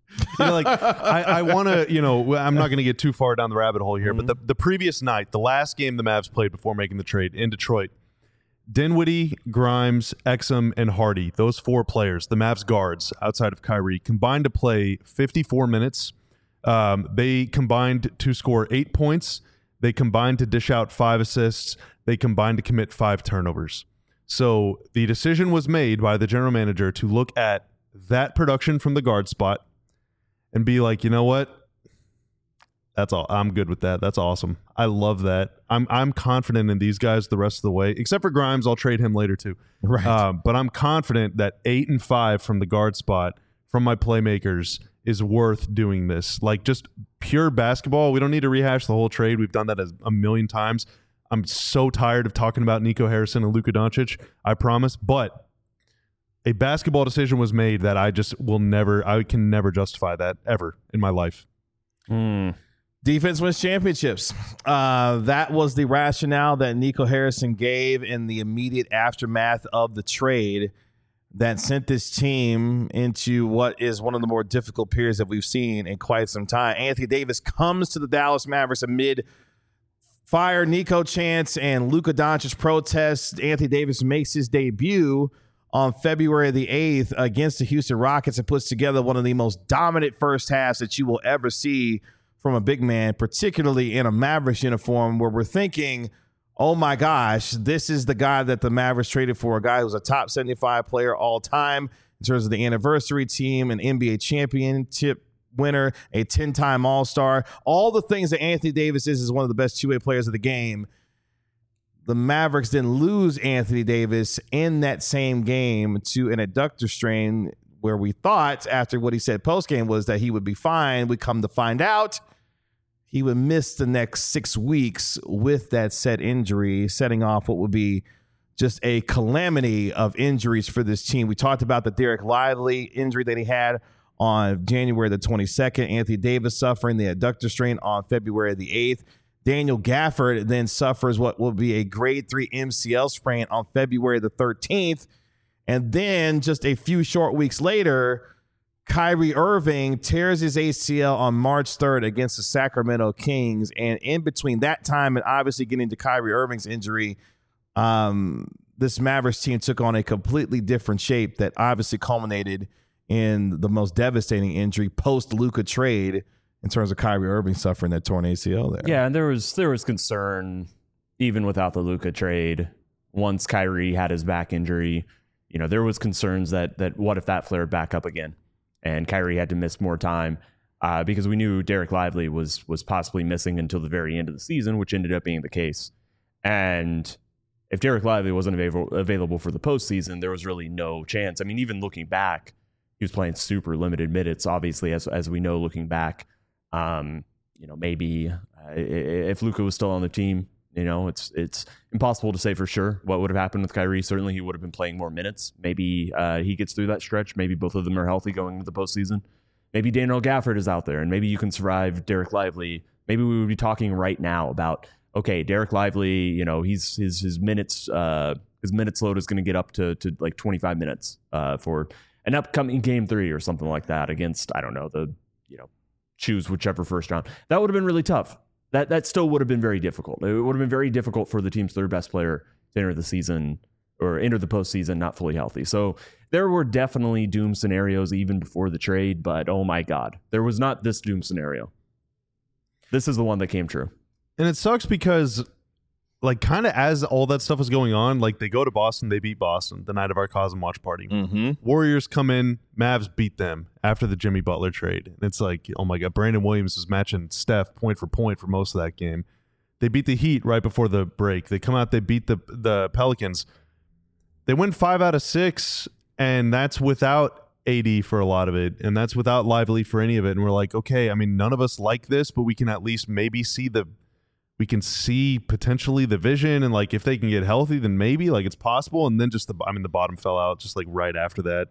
I want to, I'm not going to get too far down the rabbit hole here, but the previous night, the last game the Mavs played before making the trade in Detroit, Dinwiddie, Grimes, Exum, and Hardy, those 4 players, the Mavs guards outside of Kyrie, combined to play 54 minutes. They combined to score 8 points. They combined to dish out 5 assists. They combined to commit 5 turnovers. So the decision was made by the general manager to look at that production from the guard spot and be like, you know what? That's all. I'm good with that. That's awesome. I love that. I'm confident in these guys the rest of the way, except for Grimes. I'll trade him later too. Right. But I'm confident that 8 and 5 from the guard spot from my playmakers is worth doing this. Like just pure basketball. We don't need to rehash the whole trade. We've done that a million times. I'm so tired of talking about Nico Harrison and Luka Doncic. I promise. But a basketball decision was made that I can never justify that ever in my life. Defense wins championships. That was the rationale that Nico Harrison gave in the immediate aftermath of the trade that sent this team into what is one of the more difficult periods that we've seen in quite some time. Anthony Davis comes to the Dallas Mavericks amid fire Nico chants and Luka Doncic protests. Anthony Davis makes his debut on February the 8th against the Houston Rockets and puts together one of the most dominant first halves that you will ever see from a big man, particularly in a Mavericks uniform, where we're thinking, oh my gosh, this is the guy that the Mavericks traded for, a guy who's a top 75 player all time in terms of the anniversary team, an NBA championship winner, a 10-time All-Star, all the things that Anthony Davis is one of the best two-way players of the game. The Mavericks then lose Anthony Davis in that same game to an adductor strain, where we thought after what he said post-game was that he would be fine. We come to find out he would miss the next 6 weeks with that said injury, setting off what would be just a calamity of injuries for this team. We talked about the Derek Lively injury that he had on January the 22nd. Anthony Davis suffering the adductor strain on February the 8th. Daniel Gafford then suffers what will be a grade 3 MCL sprain on February the 13th. And then just a few short weeks later, Kyrie Irving tears his ACL on March 3rd against the Sacramento Kings. And in between that time and obviously getting to Kyrie Irving's injury, this Mavericks team took on a completely different shape that obviously culminated in the most devastating injury post-Luka trade in terms of Kyrie Irving suffering that torn ACL there. Yeah, and there was concern even without the Luka trade. Once Kyrie had his back injury, there was concerns that what if that flared back up again and Kyrie had to miss more time because we knew Derek Lively was possibly missing until the very end of the season, which ended up being the case. And if Derek Lively wasn't available for the postseason, there was really no chance. I mean, even looking back, he was playing super limited minutes, obviously, as we know, looking back. Maybe if Luka was still on the team, it's impossible to say for sure what would have happened with Kyrie. Certainly he would have been playing more minutes. Maybe he gets through that stretch. Maybe both of them are healthy going into the postseason. Maybe Daniel Gafford is out there, and maybe you can survive Derek Lively. Maybe we would be talking right now about, okay, Derek Lively, his minutes load is going to get up to like 25 minutes for an upcoming game 3 or something like that against, I don't know, choose whichever first round. That would have been really tough. That still would have been very difficult. It would have been very difficult for the team's third best player to enter the season or enter the postseason not fully healthy. So there were definitely doom scenarios even before the trade, but oh my God, there was not this doom scenario. This is the one that came true. And it sucks because, kind of as all that stuff is going on, they go to Boston, they beat Boston the night of our Cosm watch party. Mm-hmm. Warriors come in, Mavs beat them after the Jimmy Butler trade. And it's like, oh my God, Brandon Williams is matching Steph point for point for most of that game. They beat the Heat right before the break. They come out, they beat the Pelicans. They win 5 out of 6, and that's without AD for a lot of it, and that's without Lively for any of it. And we're like, okay, I mean, none of us like this, but we can at least maybe see potentially the vision, and if they can get healthy, then maybe it's possible. And then just the bottom fell out just right after that.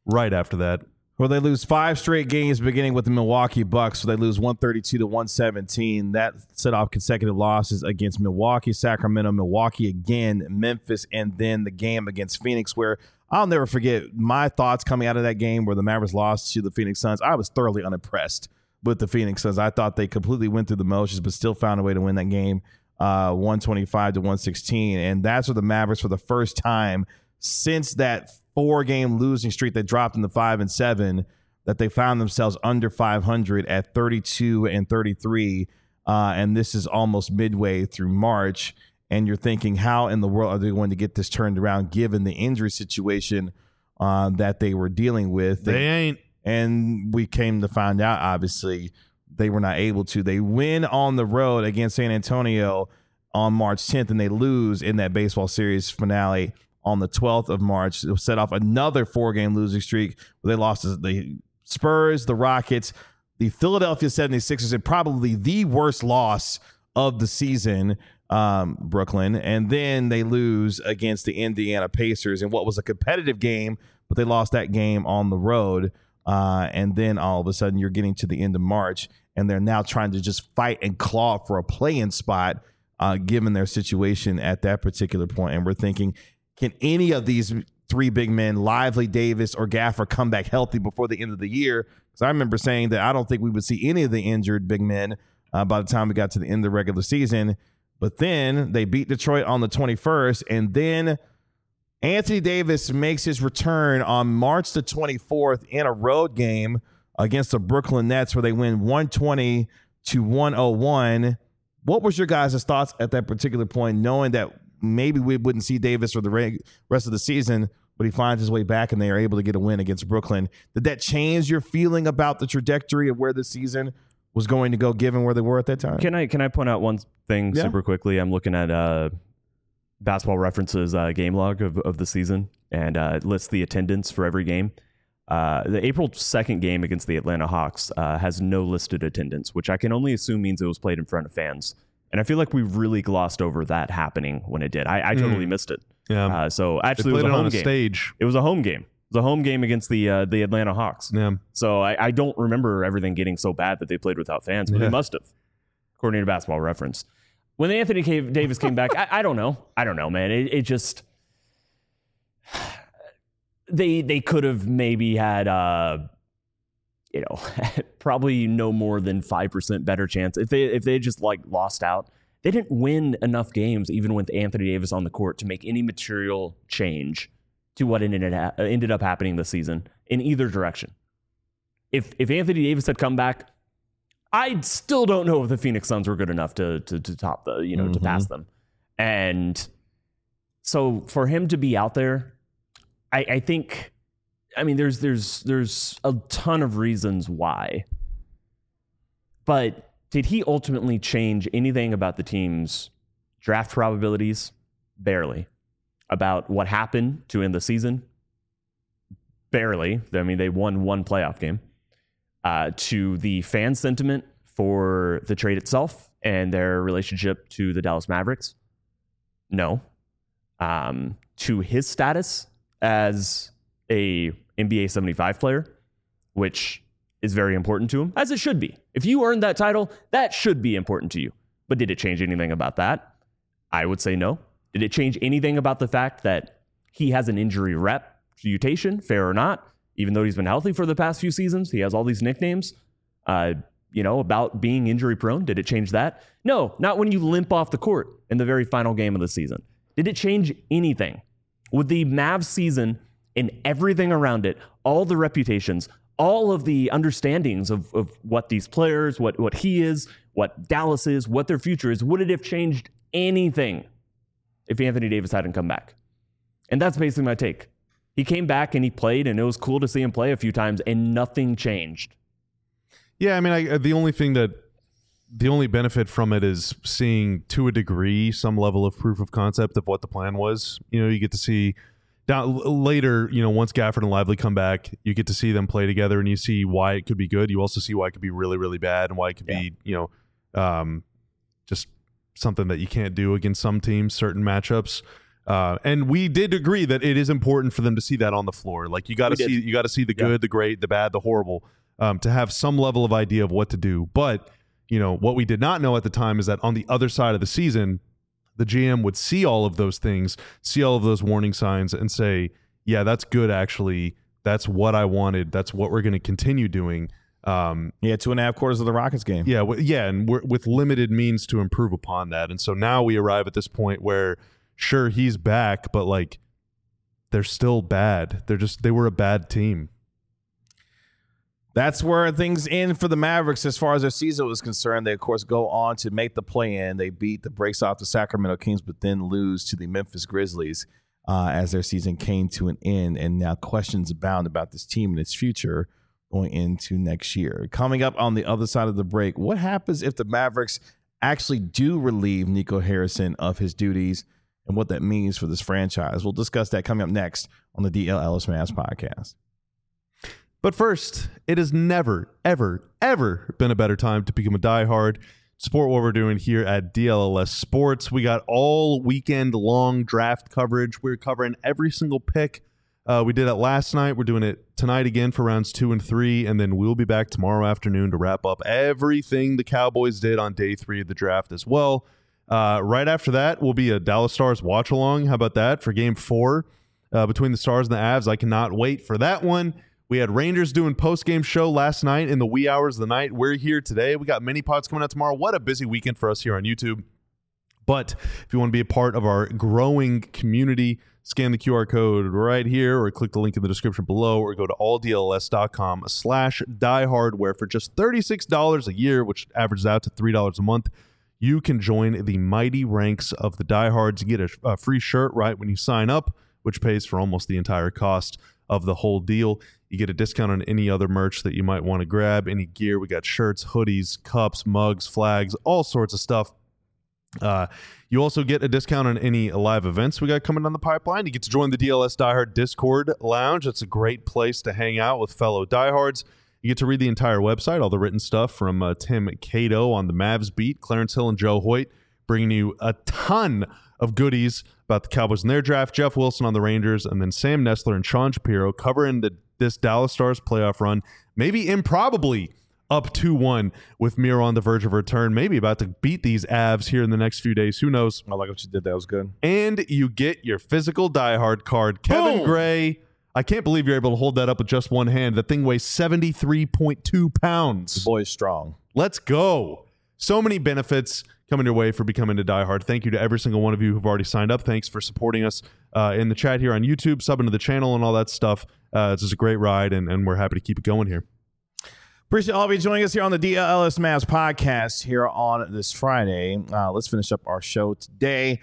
Well, they lose 5 straight games beginning with the Milwaukee Bucks. So they lose 132-117. That set off consecutive losses against Milwaukee, Sacramento, Milwaukee again, Memphis, and then the game against Phoenix, where I'll never forget my thoughts coming out of that game where the Mavericks lost to the Phoenix Suns. I was thoroughly unimpressed with the Phoenix Suns. I thought they completely went through the motions, but still found a way to win that game 125 to 116. And that's where the Mavericks, for the first time since that 4-game losing streak that dropped into 5-7, that they found themselves under 500 at 32 and 33. And this is almost midway through March. And you're thinking, how in the world are they going to get this turned around given the injury situation that they were dealing with? They ain't. And we came to find out, obviously, they were not able to. They win on the road against San Antonio on March 10th, and they lose in that baseball series finale on the 12th of March. It set off another 4-game losing streak where they lost to the Spurs, the Rockets, the Philadelphia 76ers, and probably the worst loss of the season, Brooklyn. And then they lose against the Indiana Pacers in what was a competitive game, but they lost that game on the road. And then all of a sudden you're getting to the end of March, and they're now trying to just fight and claw for a play-in spot, given their situation at that particular point. And we're thinking, can any of these 3 big men, Lively, Davis, or Gaffer, come back healthy before the end of the year? Because I remember saying that I don't think we would see any of the injured big men by the time we got to the end of the regular season. But then they beat Detroit on the 21st, and then Anthony Davis makes his return on March the 24th in a road game against the Brooklyn Nets where they win 120 to 101. What was your guys' thoughts at that particular point, knowing that maybe we wouldn't see Davis for the rest of the season, but he finds his way back and they are able to get a win against Brooklyn? Did that change your feeling about the trajectory of where the season was going to go, given where they were at that time? Can I point out one thing super quickly? I'm looking at Basketball References game log of the season, and it lists the attendance for every game. The April 2nd game against the Atlanta Hawks has no listed attendance, which I can only assume means it was played in front of fans. And I feel like we really glossed over that happening when it did. I totally missed it. Yeah. So actually, they it was played a home on a game. stage. It was a home game. It was a home game against the Atlanta Hawks. Yeah. So I don't remember everything getting so bad that they played without fans, but they must have, according to Basketball Reference. When Anthony Davis came back, I don't know. I don't know, man. It just they could have maybe had probably no more than 5% better chance if they just like lost out. They didn't win enough games, even with Anthony Davis on the court, to make any material change to what ended up happening this season in either direction. If Anthony Davis had come back, I still don't know if the Phoenix Suns were good enough to top the, to pass them. And so for him to be out there, I think, there's a ton of reasons why. But did he ultimately change anything about the team's draft probabilities? Barely. About what happened to end the season? Barely. They won one playoff game. To the fan sentiment for the trade itself and their relationship to the Dallas Mavericks? No. To his status as a NBA 75 player, which is very important to him, as it should be. If you earned that title, that should be important to you. But did it change anything about that? I would say no. Did it change anything about the fact that he has an injury reputation, fair or not? Even though he's been healthy for the past few seasons, he has all these nicknames, about being injury prone. Did it change that? No, not when you limp off the court in the very final game of the season. Did it change anything? With the Mavs season and everything around it, all the reputations, all of the understandings of what these players, what he is, what Dallas is, what their future is, would it have changed anything if Anthony Davis hadn't come back? And that's basically my take. He came back and he played, and it was cool to see him play a few times, and nothing changed. Yeah, the only benefit from it is seeing, to a degree, some level of proof of concept of what the plan was. You get to see down later, once Gafford and Lively come back, you get to see them play together, and you see why it could be good. You also see why it could be really, really bad, and why it could be, just something that you can't do against some teams, certain matchups. And we did agree that it is important for them to see that on the floor. Like you got to see the good, the great, the bad, the horrible, to have some level of idea of what to do. But what we did not know at the time is that on the other side of the season, the GM would see all of those things, see all of those warning signs, and say, "Yeah, that's good. Actually, that's what I wanted. That's what we're going to continue doing." Yeah, 2.5 quarters of the Rockets game. Yeah, and we're with limited means to improve upon that. And so now we arrive at this point where, sure, he's back, but like they're still bad. They were a bad team. That's where things end for the Mavericks as far as their season was concerned. They, of course, go on to make the play-in. They beat the brakes off the Sacramento Kings, but then lose to the Memphis Grizzlies as their season came to an end. And now questions abound about this team and its future going into next year. Coming up on the other side of the break, what happens if the Mavericks actually do relieve Nico Harrison of his duties and what that means for this franchise? We'll discuss that coming up next on the DL Ellis Mavs podcast. But first, it has never, ever, ever been a better time to become a diehard. Support what we're doing here at DLLS Sports. We got all weekend long draft coverage. We're covering every single pick. We did it last night. We're doing it tonight again for rounds 2 and 3, and then we'll be back tomorrow afternoon to wrap up everything the Cowboys did on day 3 of the draft as well. Right after that will be a Dallas Stars watch along. How about that for Game 4 between the Stars and the Avs? I cannot wait for that one. We had Rangers doing post-game show last night in the wee hours of the night. We're here today. We got mini pods coming out tomorrow. What a busy weekend for us here on YouTube. But if you want to be a part of our growing community, scan the QR code right here or click the link in the description below or go to alldls.com/diehard, where for just $36 a year, which averages out to $3 a month, you can join the mighty ranks of the diehards. You get a free shirt right when you sign up, which pays for almost the entire cost of the whole deal. You get a discount on any other merch that you might want to grab, any gear. We got shirts, hoodies, cups, mugs, flags, all sorts of stuff. You also get a discount on any live events we got coming down the pipeline. You get to join the DLS Diehard Discord Lounge. That's a great place to hang out with fellow diehards. You get to read the entire website, all the written stuff from Tim Cato on the Mavs beat, Clarence Hill and Joe Hoyt bringing you a ton of goodies about the Cowboys and their draft, Jeff Wilson on the Rangers, and then Sam Nestler and Sean Shapiro covering this Dallas Stars playoff run, maybe improbably up 2-1 with Miro on the verge of return, maybe about to beat these Avs here in the next few days. Who knows? I like what you did. That was good. And you get your physical diehard card. Kevin Gray, I can't believe you're able to hold that up with just one hand. That thing weighs 73.2 pounds. The boy's strong. Let's go. So many benefits coming your way for becoming a diehard. Thank you to every single one of you who've already signed up. Thanks for supporting us in the chat here on YouTube, subbing to the channel and all that stuff. It's just a great ride, and we're happy to keep it going here. Appreciate all of you joining us here on the DLS Mavs podcast here on this Friday. Let's finish up our show today.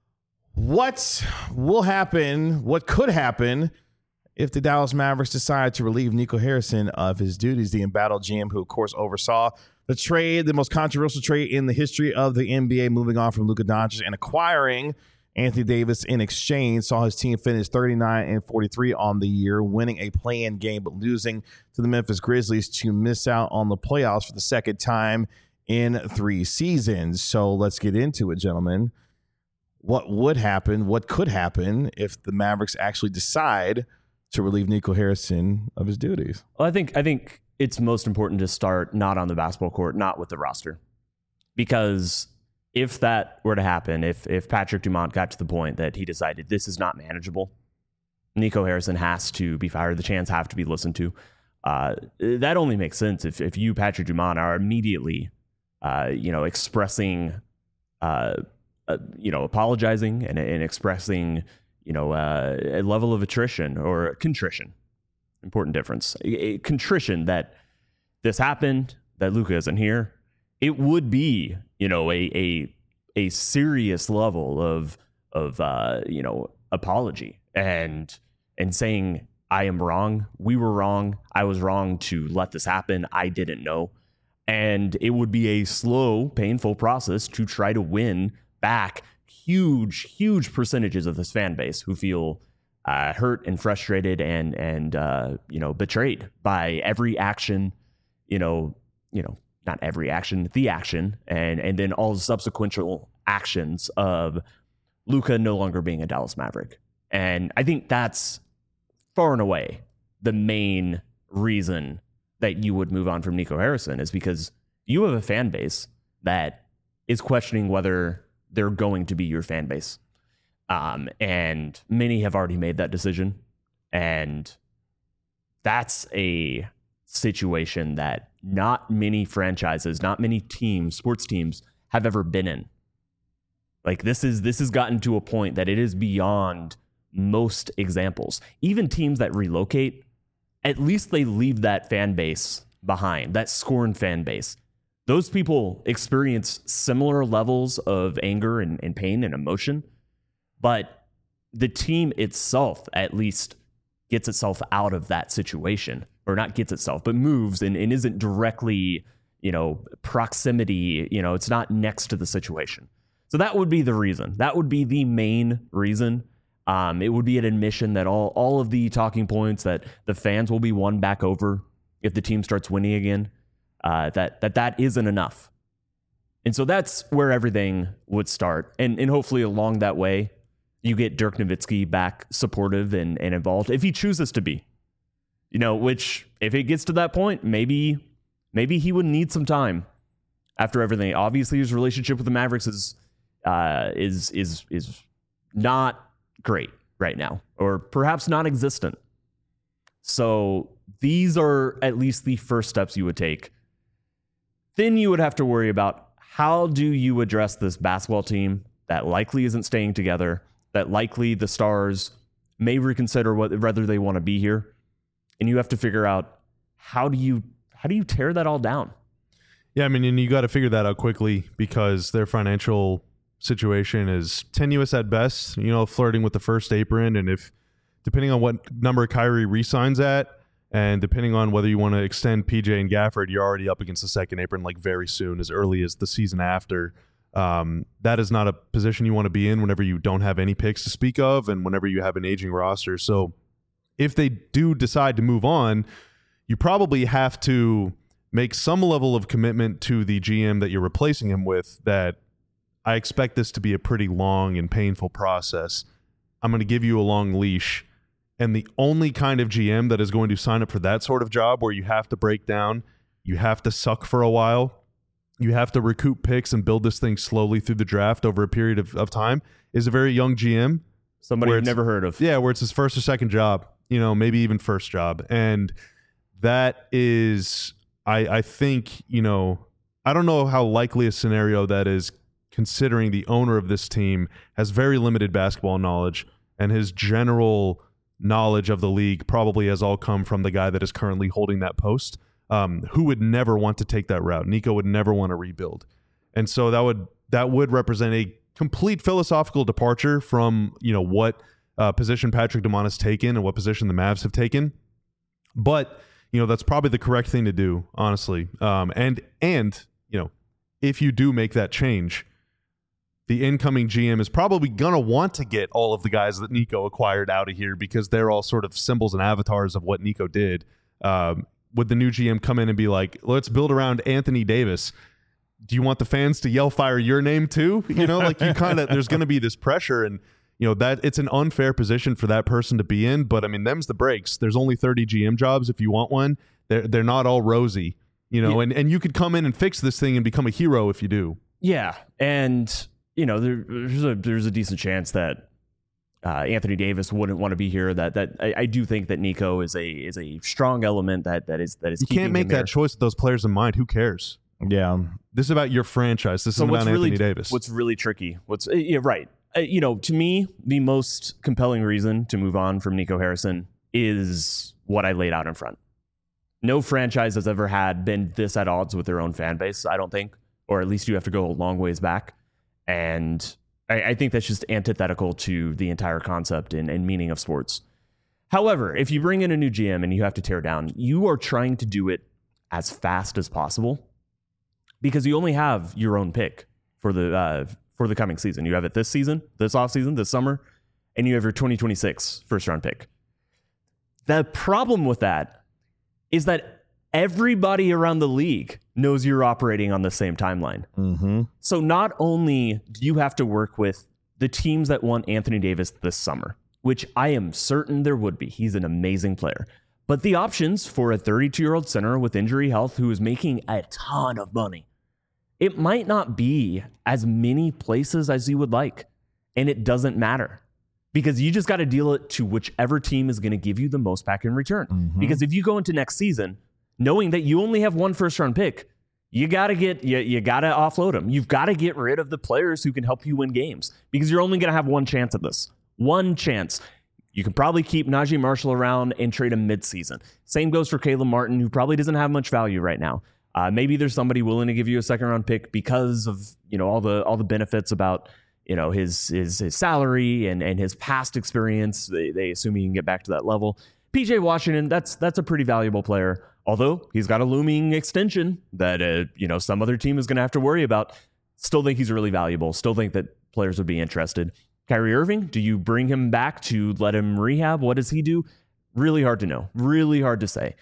What will happen, what could happen if the Dallas Mavericks decide to relieve Nico Harrison of his duties? The embattled GM, who, of course, oversaw the trade, the most controversial trade in the history of the NBA, moving on from Luka Doncic and acquiring Anthony Davis in exchange, saw his team finish 39-43 on the year, winning a play-in game but losing to the Memphis Grizzlies to miss out on the playoffs for the second time in 3 seasons. So let's get into it, gentlemen. What would happen, what could happen if the Mavericks actually decide to relieve Nico Harrison of his duties? Well, I think it's most important to start not on the basketball court, not with the roster. Because if that were to happen, if Patrick Dumont got to the point that he decided this is not manageable, Nico Harrison has to be fired. The chants have to be listened to. That only makes sense if you, Patrick Dumont, are immediately, expressing, apologizing and expressing, a level of attrition or contrition. Important difference. A contrition that this happened, that Luka isn't here. It would be, a serious level of apology and saying, I am wrong. We were wrong. I was wrong to let this happen. I didn't know. And it would be a slow, painful process to try to win back huge percentages of this fan base who feel hurt and frustrated and betrayed by every action, not every action, the action, and then all the subsequent actions of Luka no longer being a Dallas Maverick. And I think that's far and away the main reason that you would move on from Nico Harrison, is because you have a fan base that is questioning whether they're going to be your fan base. And many have already made that decision. And that's a situation that not many franchises, not many teams, sports teams have ever been in. Like this has gotten to a point that it is beyond most examples. Even teams that relocate, at least they leave that fan base behind, that scorned fan base. Those people experience similar levels of anger and pain and emotion, but the team itself at least gets itself out of that situation, or not gets itself, but moves and isn't directly, proximity, it's not next to the situation. So that would be the reason. That would be the main reason. It would be an admission that all of the talking points that the fans will be won back over if the team starts winning again, that isn't enough. And so that's where everything would start. And hopefully along that way, you get Dirk Nowitzki back supportive and involved if he chooses to be. Which if it gets to that point, maybe he would need some time after everything. Obviously, his relationship with the Mavericks is not great right now, or perhaps non-existent. So these are at least the first steps you would take. Then you would have to worry about how do you address this basketball team that likely isn't staying together, that likely the stars may reconsider whether they want to be here. And you have to figure out how do you tear that all down? Yeah, I mean, and you got to figure that out quickly because their financial situation is tenuous at best, flirting with the first apron. And if, depending on what number Kyrie re-signs at, and depending on whether you want to extend PJ and Gafford, you're already up against the second apron like very soon, as early as the season after. That is not a position you want to be in whenever you don't have any picks to speak of and whenever you have an aging roster. So if they do decide to move on, you probably have to make some level of commitment to the GM that you're replacing him with, that I expect this to be a pretty long and painful process. I'm going to give you a long leash. And the only kind of GM that is going to sign up for that sort of job where you have to break down, you have to suck for a while, you have to recoup picks and build this thing slowly through the draft over a period of time is a very young GM. Somebody you've never heard of. Yeah, where it's his first or second job, maybe even first job. And that is, I think, I don't know how likely a scenario that is, considering the owner of this team has very limited basketball knowledge, and his general knowledge of the league probably has all come from the guy that is currently holding that post, who would never want to take that route. Nico would never want to rebuild. And so that would represent a complete philosophical departure from, what position Patrick Dumont has taken and what position the Mavs have taken. But, that's probably the correct thing to do, honestly. And if you do make that change, the incoming GM is probably going to want to get all of the guys that Nico acquired out of here because they're all sort of symbols and avatars of what Nico did. Would the new GM come in and be like, let's build around Anthony Davis? Do you want the fans to yell fire your name too? There's going to be this pressure, and that it's an unfair position for that person to be in. But I mean, them's the breaks. There's only 30 GM jobs if you want one. They're not all rosy, and you could come in and fix this thing and become a hero if you do. Yeah. And there's a decent chance that Anthony Davis wouldn't want to be here. That I do think that Nico is a strong element that is. You can't make that choice with those players in mind. Who cares? Yeah, this is about your franchise. This is about Anthony Davis. What's really tricky? Right? To me, the most compelling reason to move on from Nico Harrison is what I laid out in front. No franchise has ever been this at odds with their own fan base, I don't think, or at least you have to go a long ways back. And I think that's just antithetical to the entire concept and meaning of sports. However, if you bring in a new GM and you have to tear down, you are trying to do it as fast as possible because you only have your own pick for the coming season. You have it this season, this offseason, this summer, and you have your 2026 first-round pick. The problem with that is that everybody around the league knows you're operating on the same timeline. Mm-hmm. So not only do you have to work with the teams that want Anthony Davis this summer, which I am certain there would be. He's an amazing player. But the options for a 32-year-old center with injury health who is making a ton of money, it might not be as many places as you would like. And it doesn't matter because you just got to deal it to whichever team is going to give you the most back in return. Mm-hmm. Because if you go into next season knowing that you only have one first-round pick. You got to offload them. You've got to get rid of the players who can help you win games because you're only going to have one chance at this. One chance. You can probably keep Najee Marshall around and trade him midseason. Same goes for Caleb Martin, who probably doesn't have much value right now. Maybe there's somebody willing to give you a second-round pick because of all the benefits about his salary and his past experience. They assume he can get back to that level. PJ Washington, that's a pretty valuable player. Although he's got a looming extension that some other team is going to have to worry about. Still think he's really valuable. Still think that players would be interested. Kyrie Irving, do you bring him back to let him rehab? What does he do? Really hard to know. Really hard to say.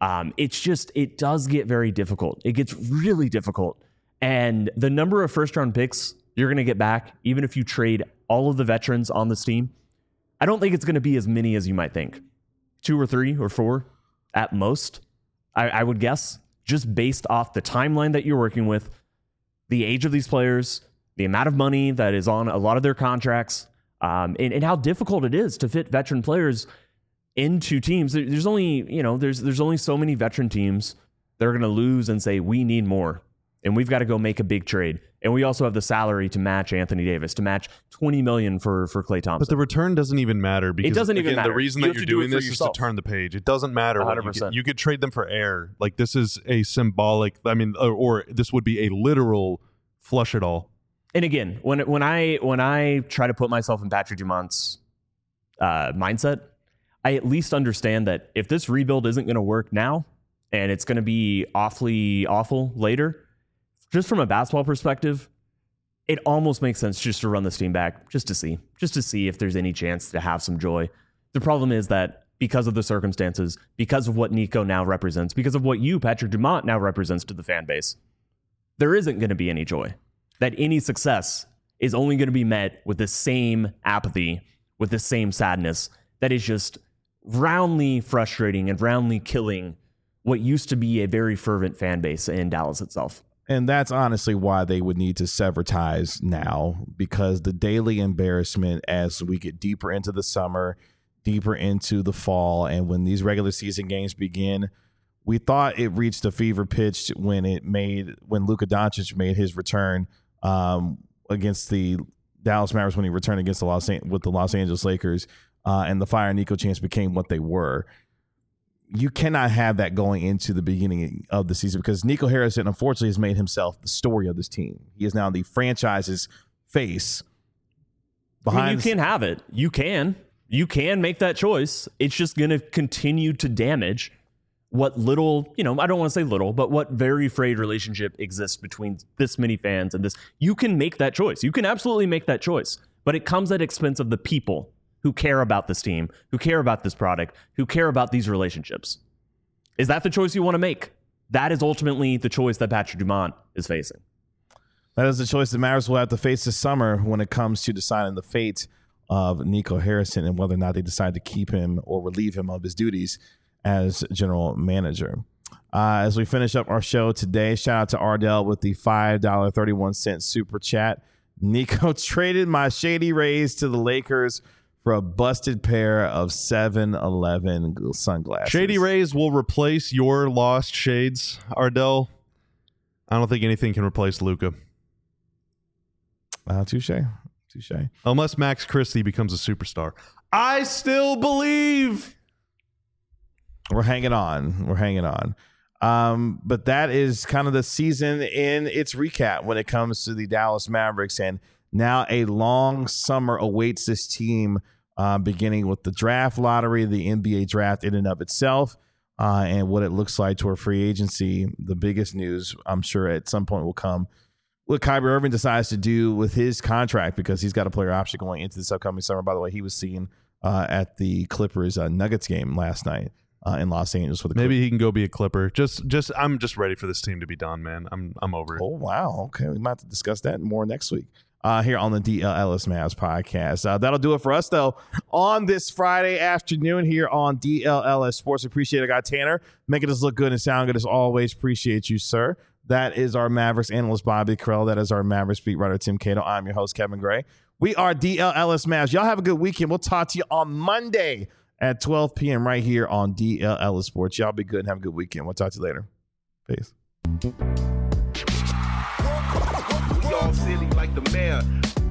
It does get very difficult. It gets really difficult. And the number of first-round picks you're going to get back, even if you trade all of the veterans on this team, I don't think it's going to be as many as you might think. 2 or 3 or 4 at most. I would guess, just based off the timeline that you're working with, the age of these players, the amount of money that is on a lot of their contracts, and how difficult it is to fit veteran players into teams. There's only, there's only so many veteran teams that are going to lose and say, we need more, and we've got to go make a big trade. And we also have the salary to match Anthony Davis, to match $20 million for Klay Thompson. But the return doesn't even matter because it doesn't even matter. The reason that you're doing this is to turn the page. It doesn't matter. 100%. You could trade them for air. Like, this is a symbolic. I mean, or this would be a literal flush it all. And again, when I try to put myself in Patrick Dumont's mindset, I at least understand that if this rebuild isn't going to work now, and it's going to be awfully awful later, just from a basketball perspective, it almost makes sense just to run this team back, just to see if there's any chance to have some joy. The problem is that because of the circumstances, because of what Nico now represents, because of what you, Patrick Dumont, now represents to the fan base, there isn't going to be any joy. That any success is only going to be met with the same apathy, with the same sadness that is just roundly frustrating and roundly killing what used to be a very fervent fan base in Dallas itself. And that's honestly why they would need to sever ties now, because the daily embarrassment as we get deeper into the summer, deeper into the fall, and when these regular season games begin, we thought it reached a fever pitch when Luka Doncic made his return against the Dallas Mavericks, when he returned against the Los Angeles Lakers, and the Fire and Nico chants became what they were. You cannot have that going into the beginning of the season, because Nico Harrison, unfortunately, has made himself the story of this team. He is now the franchise's face. You can have it. You can make that choice. It's just going to continue to damage what little, I don't want to say little, but what very frayed relationship exists between this many fans and this. You can make that choice. You can absolutely make that choice, but it comes at expense of the people who care about this team, who care about this product, who care about these relationships. Is that the choice you want to make? That is ultimately the choice that Patrick Dumont is facing. That is the choice that Mavericks will have to face this summer when it comes to deciding the fate of Nico Harrison and whether or not they decide to keep him or relieve him of his duties as general manager. As we finish up our show today, shout out to Ardell with the $5.31 super chat. Nico traded my Shady Rays to the Lakers for a busted pair of 7-Eleven sunglasses. Shady Rays will replace your lost shades, Ardell. I don't think anything can replace Luka. Touche. Unless Max Christie becomes a superstar. I still believe. We're hanging on. But that is kind of the season in its recap when it comes to the Dallas Mavericks. And now a long summer awaits this team, beginning with the draft lottery, the NBA draft in and of itself, and what it looks like toward free agency. The biggest news, I'm sure, at some point will come what Kyrie Irving decides to do with his contract, because he's got a player option going into this upcoming summer. By the way, he was seen at the Clippers Nuggets game last night in Los Angeles. For the Maybe he can go be a Clipper. I'm just ready for this team to be done, man. I'm over it. Oh wow, okay, we might have to discuss that more next week here on the DLLS Mavs podcast. That'll do it for us, though, on this Friday afternoon here on DLLS Sports. Appreciate it, guy Tanner, making us look good and sound good as always. Appreciate you, sir. That is our Mavericks analyst, Bobby Krell. That is our Mavericks beat writer, Tim Cato. I'm your host, Kevin Gray. We are DLLS Mavs. Y'all have a good weekend. We'll talk to you on Monday at 12 p.m. right here on DLL Sports. Y'all be good and have a good weekend. We'll talk to you later. Peace. We all silly like the mayor.